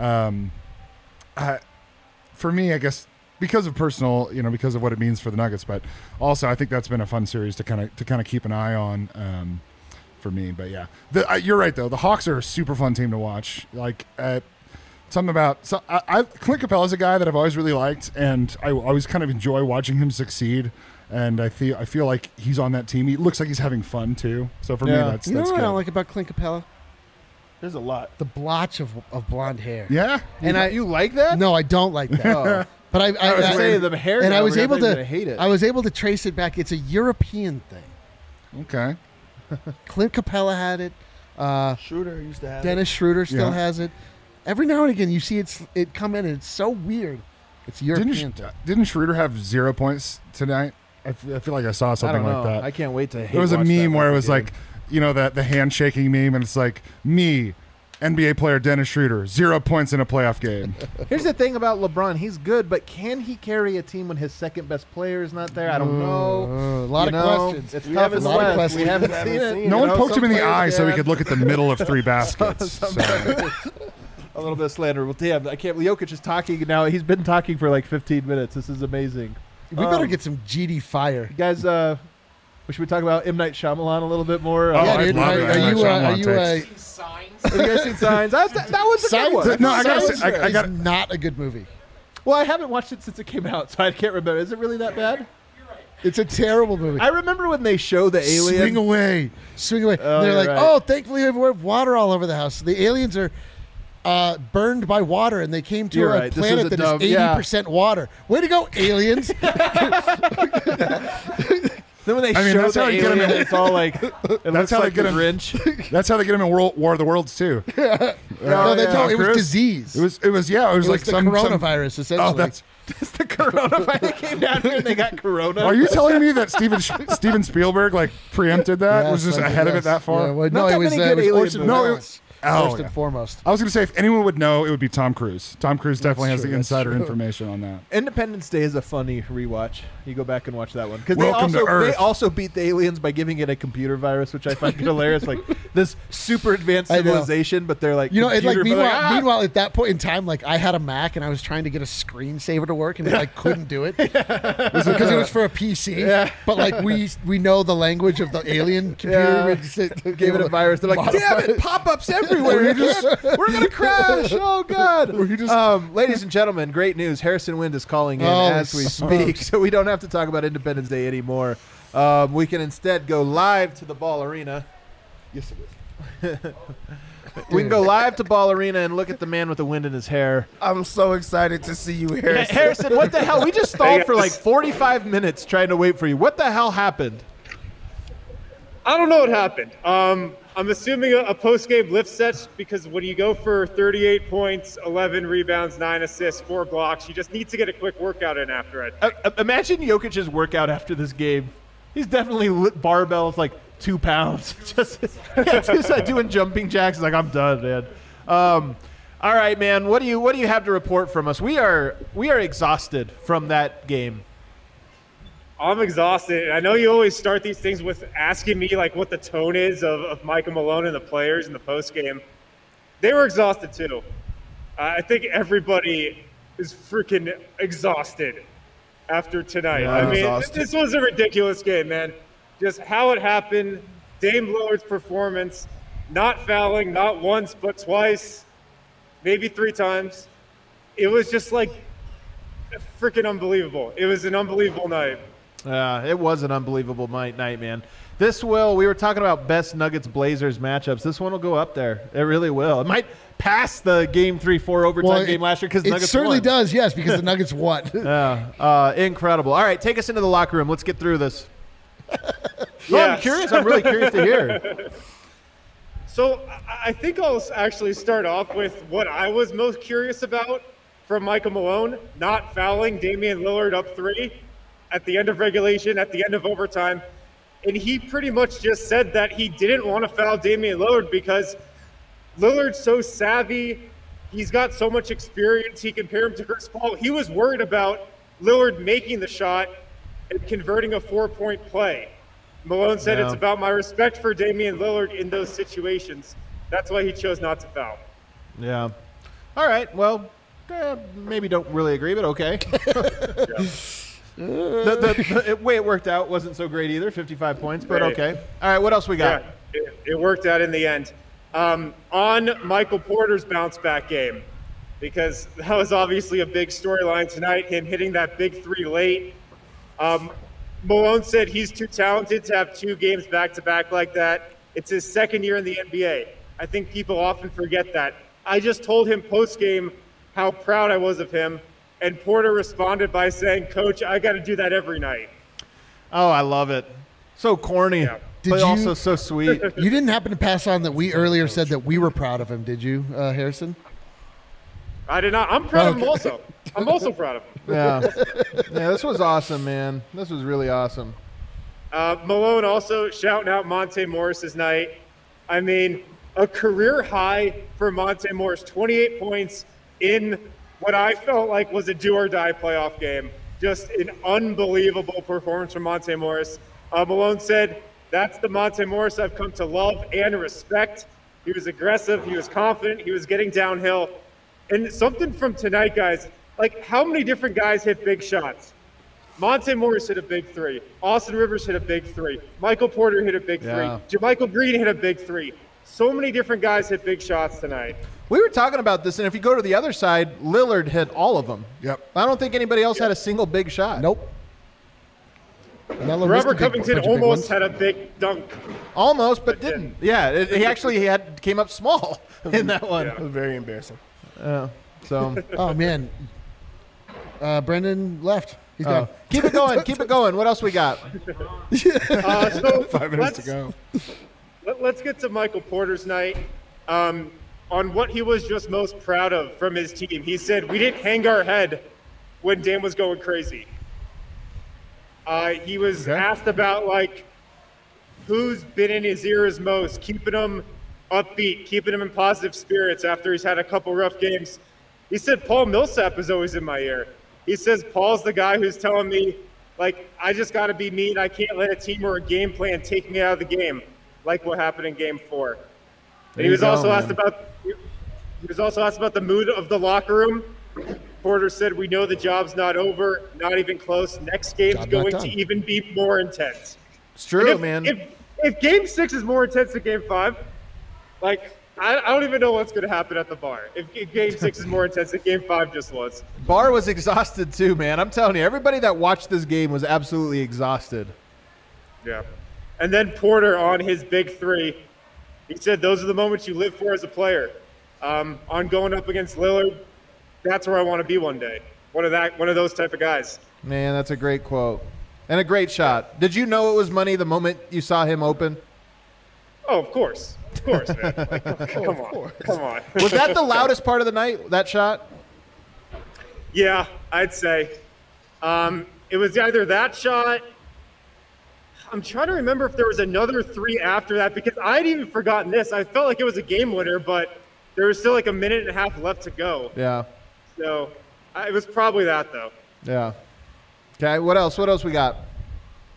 For me, I guess because of personal, because of what it means for the Nuggets, but also I think that's been a fun series to kind of keep an eye on for me. But yeah, you're right though. The Hawks are a super fun team to watch. Like something about Clint Capella's a guy that I've always really liked, and I always kind of enjoy watching him succeed. And I feel like he's on that team. He looks like he's having fun too. So for me, that's You know what good. I don't like about Clint Capella? There's a lot. The blotch of blonde hair. Yeah, And you like that? No, I don't like that. Oh. But I I was saying the hair. and I down, was I able thought you were to gonna hate it. I was able to trace it back. It's a European thing. okay. Clint Capella had it. Schroeder used to have Dennis Schroeder still Yeah. has it. Every now and again, you see it come in, and it's so weird. It's European. Didn't Schroeder have 0 points tonight? I feel like I saw I something don't know. like that. I can't wait to. There was a hate-watch that meme where it fucking was game. like, the handshaking meme, and it's like me, NBA player Dennis Schroeder, 0 points in a playoff game. Here's the thing about LeBron. He's good, but can he carry a team when his second best player is not there? I don't know. A lot You of know, questions. It's We tough haven't in the seen it. West. Questions. We haven't We seen haven't it. seen No it. one You know, poked him in the some eye players so he can. could look at the middle of three baskets. So, A little bit of slander. Well, damn, I can't. Jokic is talking now. He's been talking for like 15 minutes. This is amazing. We better get some GD fire. Guys, should we talk about M. Night Shyamalan a little bit more? Oh, Yeah, I'd dude. love Are it. you Shyamalan takes. These signs. Have you guys seen Signs? That was a good one. No, I gotta Signs say, I is got. not a good movie. Well, I haven't watched it since it came out, so I can't remember. Is it really that bad? It's a terrible movie. I remember when they show the alien. Swing away. Oh, They're you're like, right. oh, thankfully we have water all over the house. The aliens are burned by water, and they came to You're a right. This planet is a that dumb- is 80% water. Way to go, aliens! Then when they I mean, show that's the how you get 'em alien, in- it's all like it looks how they like get the 'em- Grinch. That's how they get him in War of the Worlds too. No, they yeah. told it was Cruise? disease. It was It was like the some coronavirus, essentially. Oh, that's. It's the coronavirus. They came down here and they got corona. Are you telling me that Steven Spielberg like preempted that? Yes, was just I think ahead of yes. it that far? Yeah, well, Not no, that it was, many it good was alien Orson movies. No, it Welles, was- oh, first yeah. and foremost. I was going to say if anyone would know, it would be Tom Cruise. Tom Cruise definitely has true, the that's insider true. information on that. Independence Day is a funny rewatch. You go back and watch that one because Welcome to they Earth. also beat the aliens by giving it a computer virus, which I find hilarious. Like this super advanced I know. civilization, but they're like You know, it, like computer- meanwhile, at that point in time, like I had a Mac and I was trying to get a screensaver to work and I couldn't do it because it was for a PC. Yeah. But like we know the language of the alien computer. Yeah. We just gave it a virus. They're like, modify damn it, it. pop-ups everywhere. We're gonna crash. Oh god. Ladies and gentlemen, great news. Harrison Wind is calling in Oh, as we sucks. speak, so we don't have to talk about Independence Day anymore. We can instead go live to the Ball Arena. Yes, it is. We can go live to Ball Arena and look at the man with the wind in his hair. I'm so excited to see you, Harrison. Harrison, what the hell? We just stalled for like 45 minutes trying to wait for you. What the hell happened? I don't know what happened. I'm assuming a post-game lift set because when you go for 38 points, 11 rebounds, 9 assists, 4 blocks, you just need to get a quick workout in after it. Imagine Jokic's workout after this game. He's definitely lit barbells like 2 pounds. just doing jumping jacks. He's like, I'm done, man. All right, man. What do you have to report from us? We are exhausted from that game. I'm exhausted. I know you always start these things with asking me like what the tone is of Michael Malone and the players in the post game. They were exhausted too. I think everybody is freaking exhausted after tonight. Yeah, I mean, exhausted. this was a ridiculous game, man. Just how it happened, Dame Lillard's performance, not fouling, not once, but twice, maybe 3 times. It was just like freaking unbelievable. It was an unbelievable night. It was an unbelievable night, man. We were talking about best Nuggets-Blazers matchups. This one will go up there. It really will. It might pass the Game 3-4 overtime game last year because it Nuggets certainly won. does, yes, because the Nuggets won. Incredible. All right, take us into the locker room. Let's get through this. No, I'm Yes. curious. I'm really curious to hear. So I think I'll actually start off with what I was most curious about from Michael Malone, not fouling Damian Lillard up 3 at the end of regulation, at the end of overtime. And he pretty much just said that he didn't want to foul Damian Lillard because Lillard's so savvy. He's got so much experience. He compared him to Chris Paul. He was worried about Lillard making the shot and converting a 4-point play. Malone said it's about my respect for Damian Lillard in those situations. That's why he chose not to foul. Yeah. All right. Well, maybe don't really agree, but okay. The way it worked out wasn't so great either, 55 points, but Right. okay. All right, what else we got? Yeah, it worked out in the end. On Michael Porter's bounce back game, because that was obviously a big storyline tonight, him hitting that big 3 late. Malone said he's too talented to have 2 games back-to-back like that. It's his 2nd year in the NBA. I think people often forget that. I just told him post-game how proud I was of him, and Porter responded by saying, "Coach, I got to do that every night." Oh, I love it. So corny, Yeah. but Did also you- so sweet. You didn't happen to pass on that we earlier said that we were proud of him, did you, Harrison? I did not. I'm proud of him also. I'm also proud of him. Yeah. This was awesome, man. This was really awesome. Malone also shouting out Monte Morris's night. I mean, a career high for Monte Morris, 28 points in what I felt like was a do-or-die playoff game. Just an unbelievable performance from Monte Morris. Malone said, "That's the Monte Morris I've come to love and respect." He was aggressive. He was confident. He was getting downhill. And something from tonight, guys, like how many different guys hit big shots? Monte Morris hit a big 3. Austin Rivers hit a big 3. Michael Porter hit a big 3. Yeah. JaMychal Green hit a big 3. So many different guys hit big shots tonight. We were talking about this, and if you go to the other side, Lillard hit all of them. Yep. I don't think anybody else had a single big shot. Nope. Melo missed a Robert big- Covington bunch of big almost ones. had a big dunk. Almost, but But didn't. Yeah, he came up small in that one. It was very embarrassing. So Oh, man. Brendan left. He's gone. keep it going. Keep it going. What else we got? So 5 minutes to go. Let's get to Michael Porter's night. On what he was just most proud of from his team. He said, "We didn't hang our head when Dame was going crazy." He was asked about, like, who's been in his ears most, keeping him upbeat, keeping him in positive spirits after he's had a couple rough games. He said, "Paul Millsap is always in my ear." He says, "Paul's the guy who's telling me, like, I just got to be me and I can't let a team or a game plan take me out of the game, like what happened in Game 4. And he was also asked about the mood of the locker room. Porter said, "We know the job's not over, not even close. Next game's Job not going done." to even be more intense." It's true, And man. If Game 6 is more intense than Game 5, like, I don't even know what's going to happen at the bar. If Game 6 is more intense than Game 5 just was. Barr was exhausted too, man. I'm telling you, everybody that watched this game was absolutely exhausted. Yeah. And then Porter on his big 3. He said, "Those are the moments you live for as a player. On going up against Lillard, that's where I want to be one day. One of those type of guys." Man, that's a great quote. And a great shot. Did you know it was money the moment you saw him open? Oh, of course, man. Like, come on. Was that the loudest part of the night, that shot? Yeah, I'd say. It was either that shot. I'm trying to remember if there was another 3 after that because I'd even forgotten this. I felt like it was a game winner, but there was still like a minute and a half left to go. Yeah. So it was probably that, though. Yeah. Okay, what else? What else we got?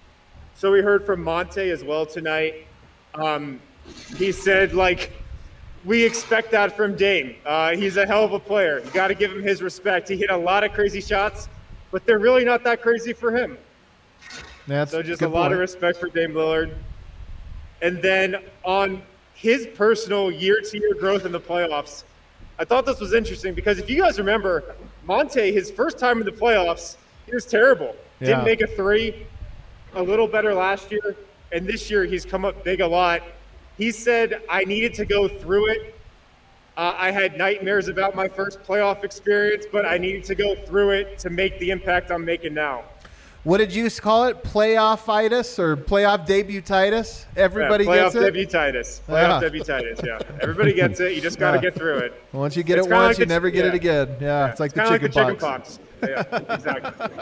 So we heard from Monte as well tonight. He said, like, we expect that from Dame. He's a hell of a player. You got to give him his respect. He hit a lot of crazy shots, but they're really not that crazy for him. So just a lot of respect for Dame Lillard. And then on his personal year-to-year growth in the playoffs, I thought this was interesting because if you guys remember, Monte, his first time in the playoffs, he was terrible. Didn't make a three, a little better last year, and this year he's come up big a lot. He said, I needed to go through it. I had nightmares about my first playoff experience, but I needed to go through it to make the impact I'm making now. What did you call it? Playoff-itis or playoff debutitis? Everybody gets it? Playoff debutitis, yeah. Everybody gets it. You just got to get through it. Once you get it once, you never get it again. Yeah, it's like the chicken pox. Yeah, exactly.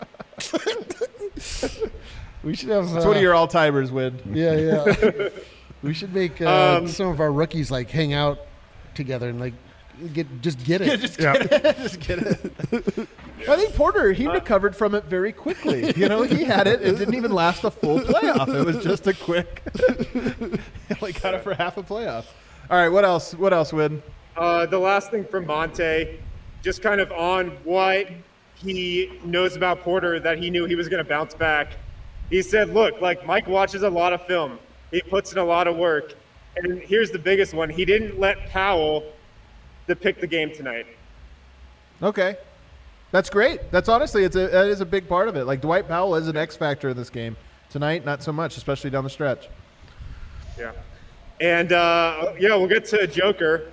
We should have. It's one of your all-timers, Win. Yeah. We should make some of our rookies like hang out together and like get it. Just get it. I think Porter, he recovered from it very quickly. You know, he had it. It didn't even last a full playoff. It was just a quick. He only got it for half a playoff. All right, what else? What else, Win? The last thing from Monte, just kind of on what he knows about Porter that he knew he was going to bounce back. He said, look, like Mike watches a lot of film. He puts in a lot of work. And here's the biggest one. He didn't let Powell pick the game tonight. Okay. That's great. That's honestly, that is a big part of it. Like Dwight Powell is an X factor in this game. Tonight, not so much, especially down the stretch. Yeah. And, we'll get to Joker.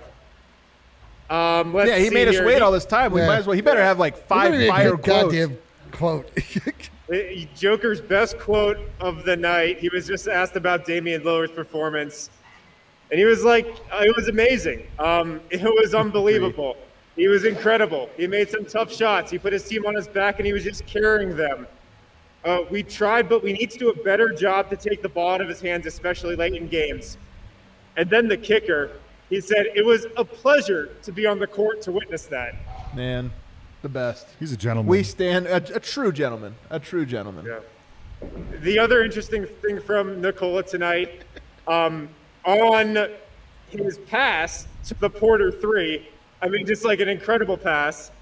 He made us wait all this time. We might as well. He better have like 5 fire quotes. Goddamn quote. Joker's best quote of the night. He was just asked about Damian Lillard's performance. And he was like, it was amazing. It was unbelievable. He was incredible. He made some tough shots. He put his team on his back, and he was just carrying them. We tried, but we need to do a better job to take the ball out of his hands, especially late in games. And then the kicker, he said, it was a pleasure to be on the court to witness that. Man, the best. He's a gentleman. We stand a true gentleman. A true gentleman. Yeah. The other interesting thing from Nikola tonight, on his pass to the Porter three, I mean, just like an incredible pass.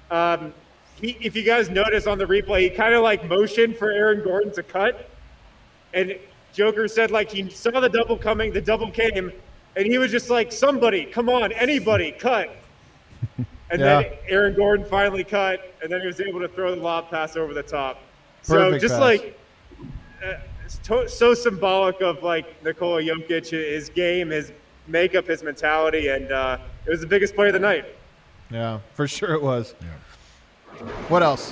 If you guys notice on the replay, he kind of like motioned for Aaron Gordon to cut. And Joker said like he saw the double coming, the double came, and he was just like, somebody, come on, anybody, cut. And then Aaron Gordon finally cut, and then he was able to throw the lob pass over the top. Perfect so just pass. like so symbolic of like Nikola Jokic, his game, his makeup, his mentality, and it was the biggest play of the night. Yeah, for sure it was. Yeah. What else?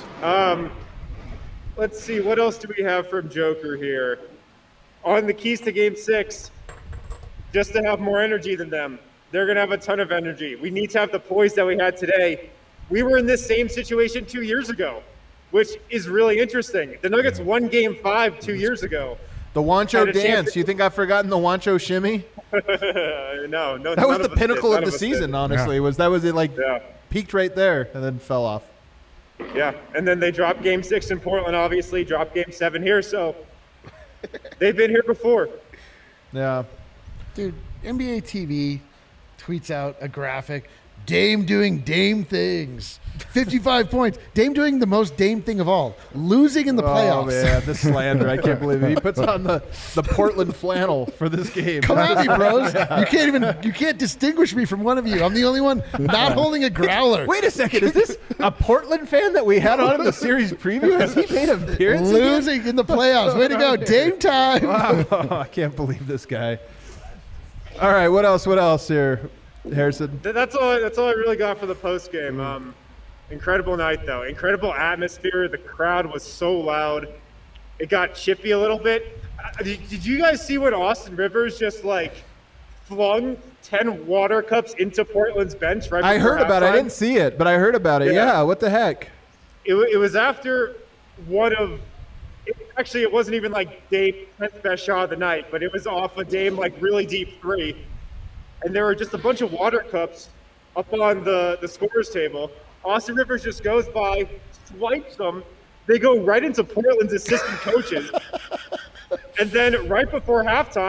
Let's see. What else do we have from Joker here? On the keys to Game 6, just to have more energy than them. They're going to have a ton of energy. We need to have the poise that we had today. We were in this same situation 2 years ago, which is really interesting. The Nuggets won Game 5 2 years ago. The Wancho dance. You think I've forgotten the Wancho shimmy? No. That was the pinnacle of the season, honestly. Yeah. Peaked right there and then fell off. Yeah, and then they dropped Game 6 in Portland, obviously, dropped Game 7 here, so they've been here before. Yeah. Dude, NBA TV tweets out a graphic, Dame doing Dame things. 55 points. Dame doing the most Dame thing of all, losing in the playoffs. Oh, man, the slander. I can't believe it. He puts on the Portland flannel for this game. Come at me, bros. You can't distinguish me from one of you. I'm the only one not holding a growler. Wait a second. Is this a Portland fan that we had on in the series preview? Has he made an appearance losing in the playoffs. Way to go. Dame time. Wow. I can't believe this guy. All right, what else here, Harrison? That's all I really got for the post game. Incredible night, though. Incredible atmosphere. The crowd was so loud. It got chippy a little bit. Did you guys see when Austin Rivers just, like, flung 10 water cups into Portland's bench right before I heard about it. I didn't see it, but I heard about it. Yeah, what the heck? It was after one of – actually, it wasn't even, like, Dame's 10th best shot of the night, but it was off a Dame, like, really deep three. And there were just a bunch of water cups up on the scorer's table. Austin Rivers just goes by, swipes them. They go right into Portland's assistant coaches. And then right before halftime,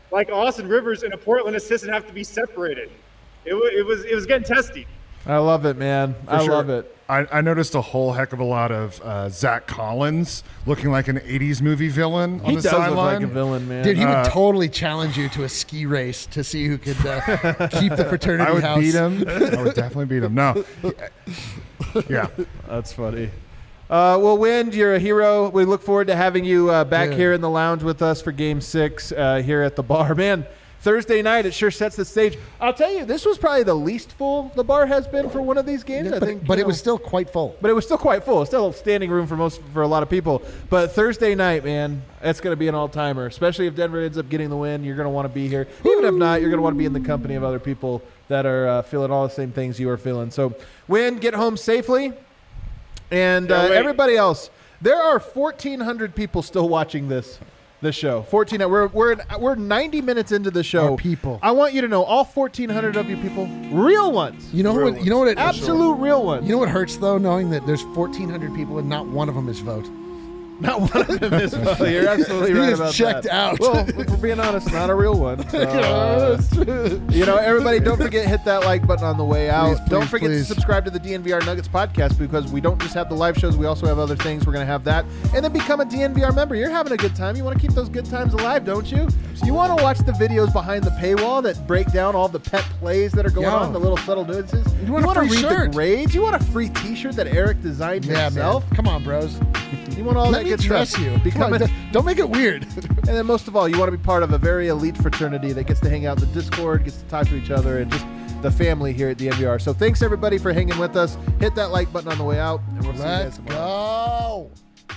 like Austin Rivers and a Portland assistant have to be separated. It was getting testy. I love it, man. I love it. I noticed a whole heck of a lot of Zach Collins looking like an 80s movie villain on He the does look sideline. like a villain, man. Dude, he would totally challenge you to a ski race to see who could keep the fraternity I would house. beat him. I would definitely beat him. No. Yeah. That's funny. Well, Wind, you're a hero. We look forward to having you back Dude. here in the lounge with us for Game 6 here at the bar. Man, Thursday night, it sure sets the stage. I'll tell you, this was probably the least full the bar has been for one of these games. I think, But it was still quite full. But it was still quite full. Still standing room for a lot of people. But Thursday night, man, that's going to be an all-timer, especially if Denver ends up getting the win. You're going to want to be here. Even if not, you're going to want to be in the company of other people that are feeling all the same things you are feeling. So, Win, get home safely. And everybody else, there are 1,400 people still watching this show. 14. We're 90 minutes into the show. Our people. I want you to know, all 1,400 of you people, real ones. You know what? Absolute real ones. You know what hurts though, knowing that there's 1,400 people and not one of them is vote. Not one of them is. You're absolutely He right is about checked that. out. Well, if we're being honest, not a real one. So, everybody, don't forget to hit that like button on the way out. Please, Don't forget please. to subscribe to the DNVR Nuggets podcast, because we don't just have the live shows, we also have other things. We're going to have that. And then become a DNVR member. You're having a good time. You want to keep those good times alive, don't you? You want to watch the videos behind the paywall that break down all the pet plays that are going on, the little subtle nuances. You want a to free read shirt. the grades. You want a free t-shirt that Eric designed himself. Man. Come on, bros. You want all Let that me good dress stuff. you. Come on, don't make it weird. And then most of all, you want to be part of a very elite fraternity that gets to hang out in the Discord, gets to talk to each other, and just the family here at the NVR. So thanks, everybody, for hanging with us. Hit that like button on the way out, and we'll see you guys Let's tomorrow. go.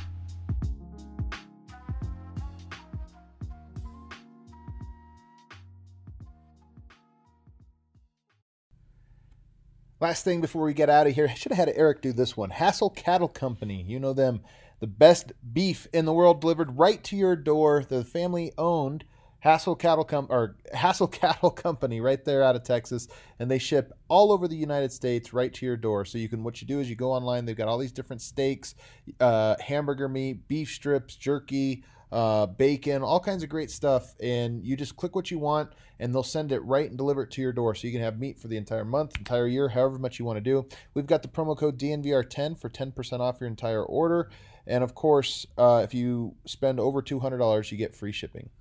Last thing before we get out of here, I should have had Eric do this one. Hassel Cattle Company. You know them. The best beef in the world delivered right to your door. The family-owned Hassel Cattle Company right there out of Texas. And they ship all over the United States right to your door. So what you do is you go online. They've got all these different steaks, hamburger meat, beef strips, jerky, bacon, all kinds of great stuff, and you just click what you want and they'll send it right and deliver it to your door, so you can have meat for the entire month, entire year, however much you want to do. We've got the promo code DNVR10 for 10% off your entire order, and of course, if you spend over $200, you get free shipping.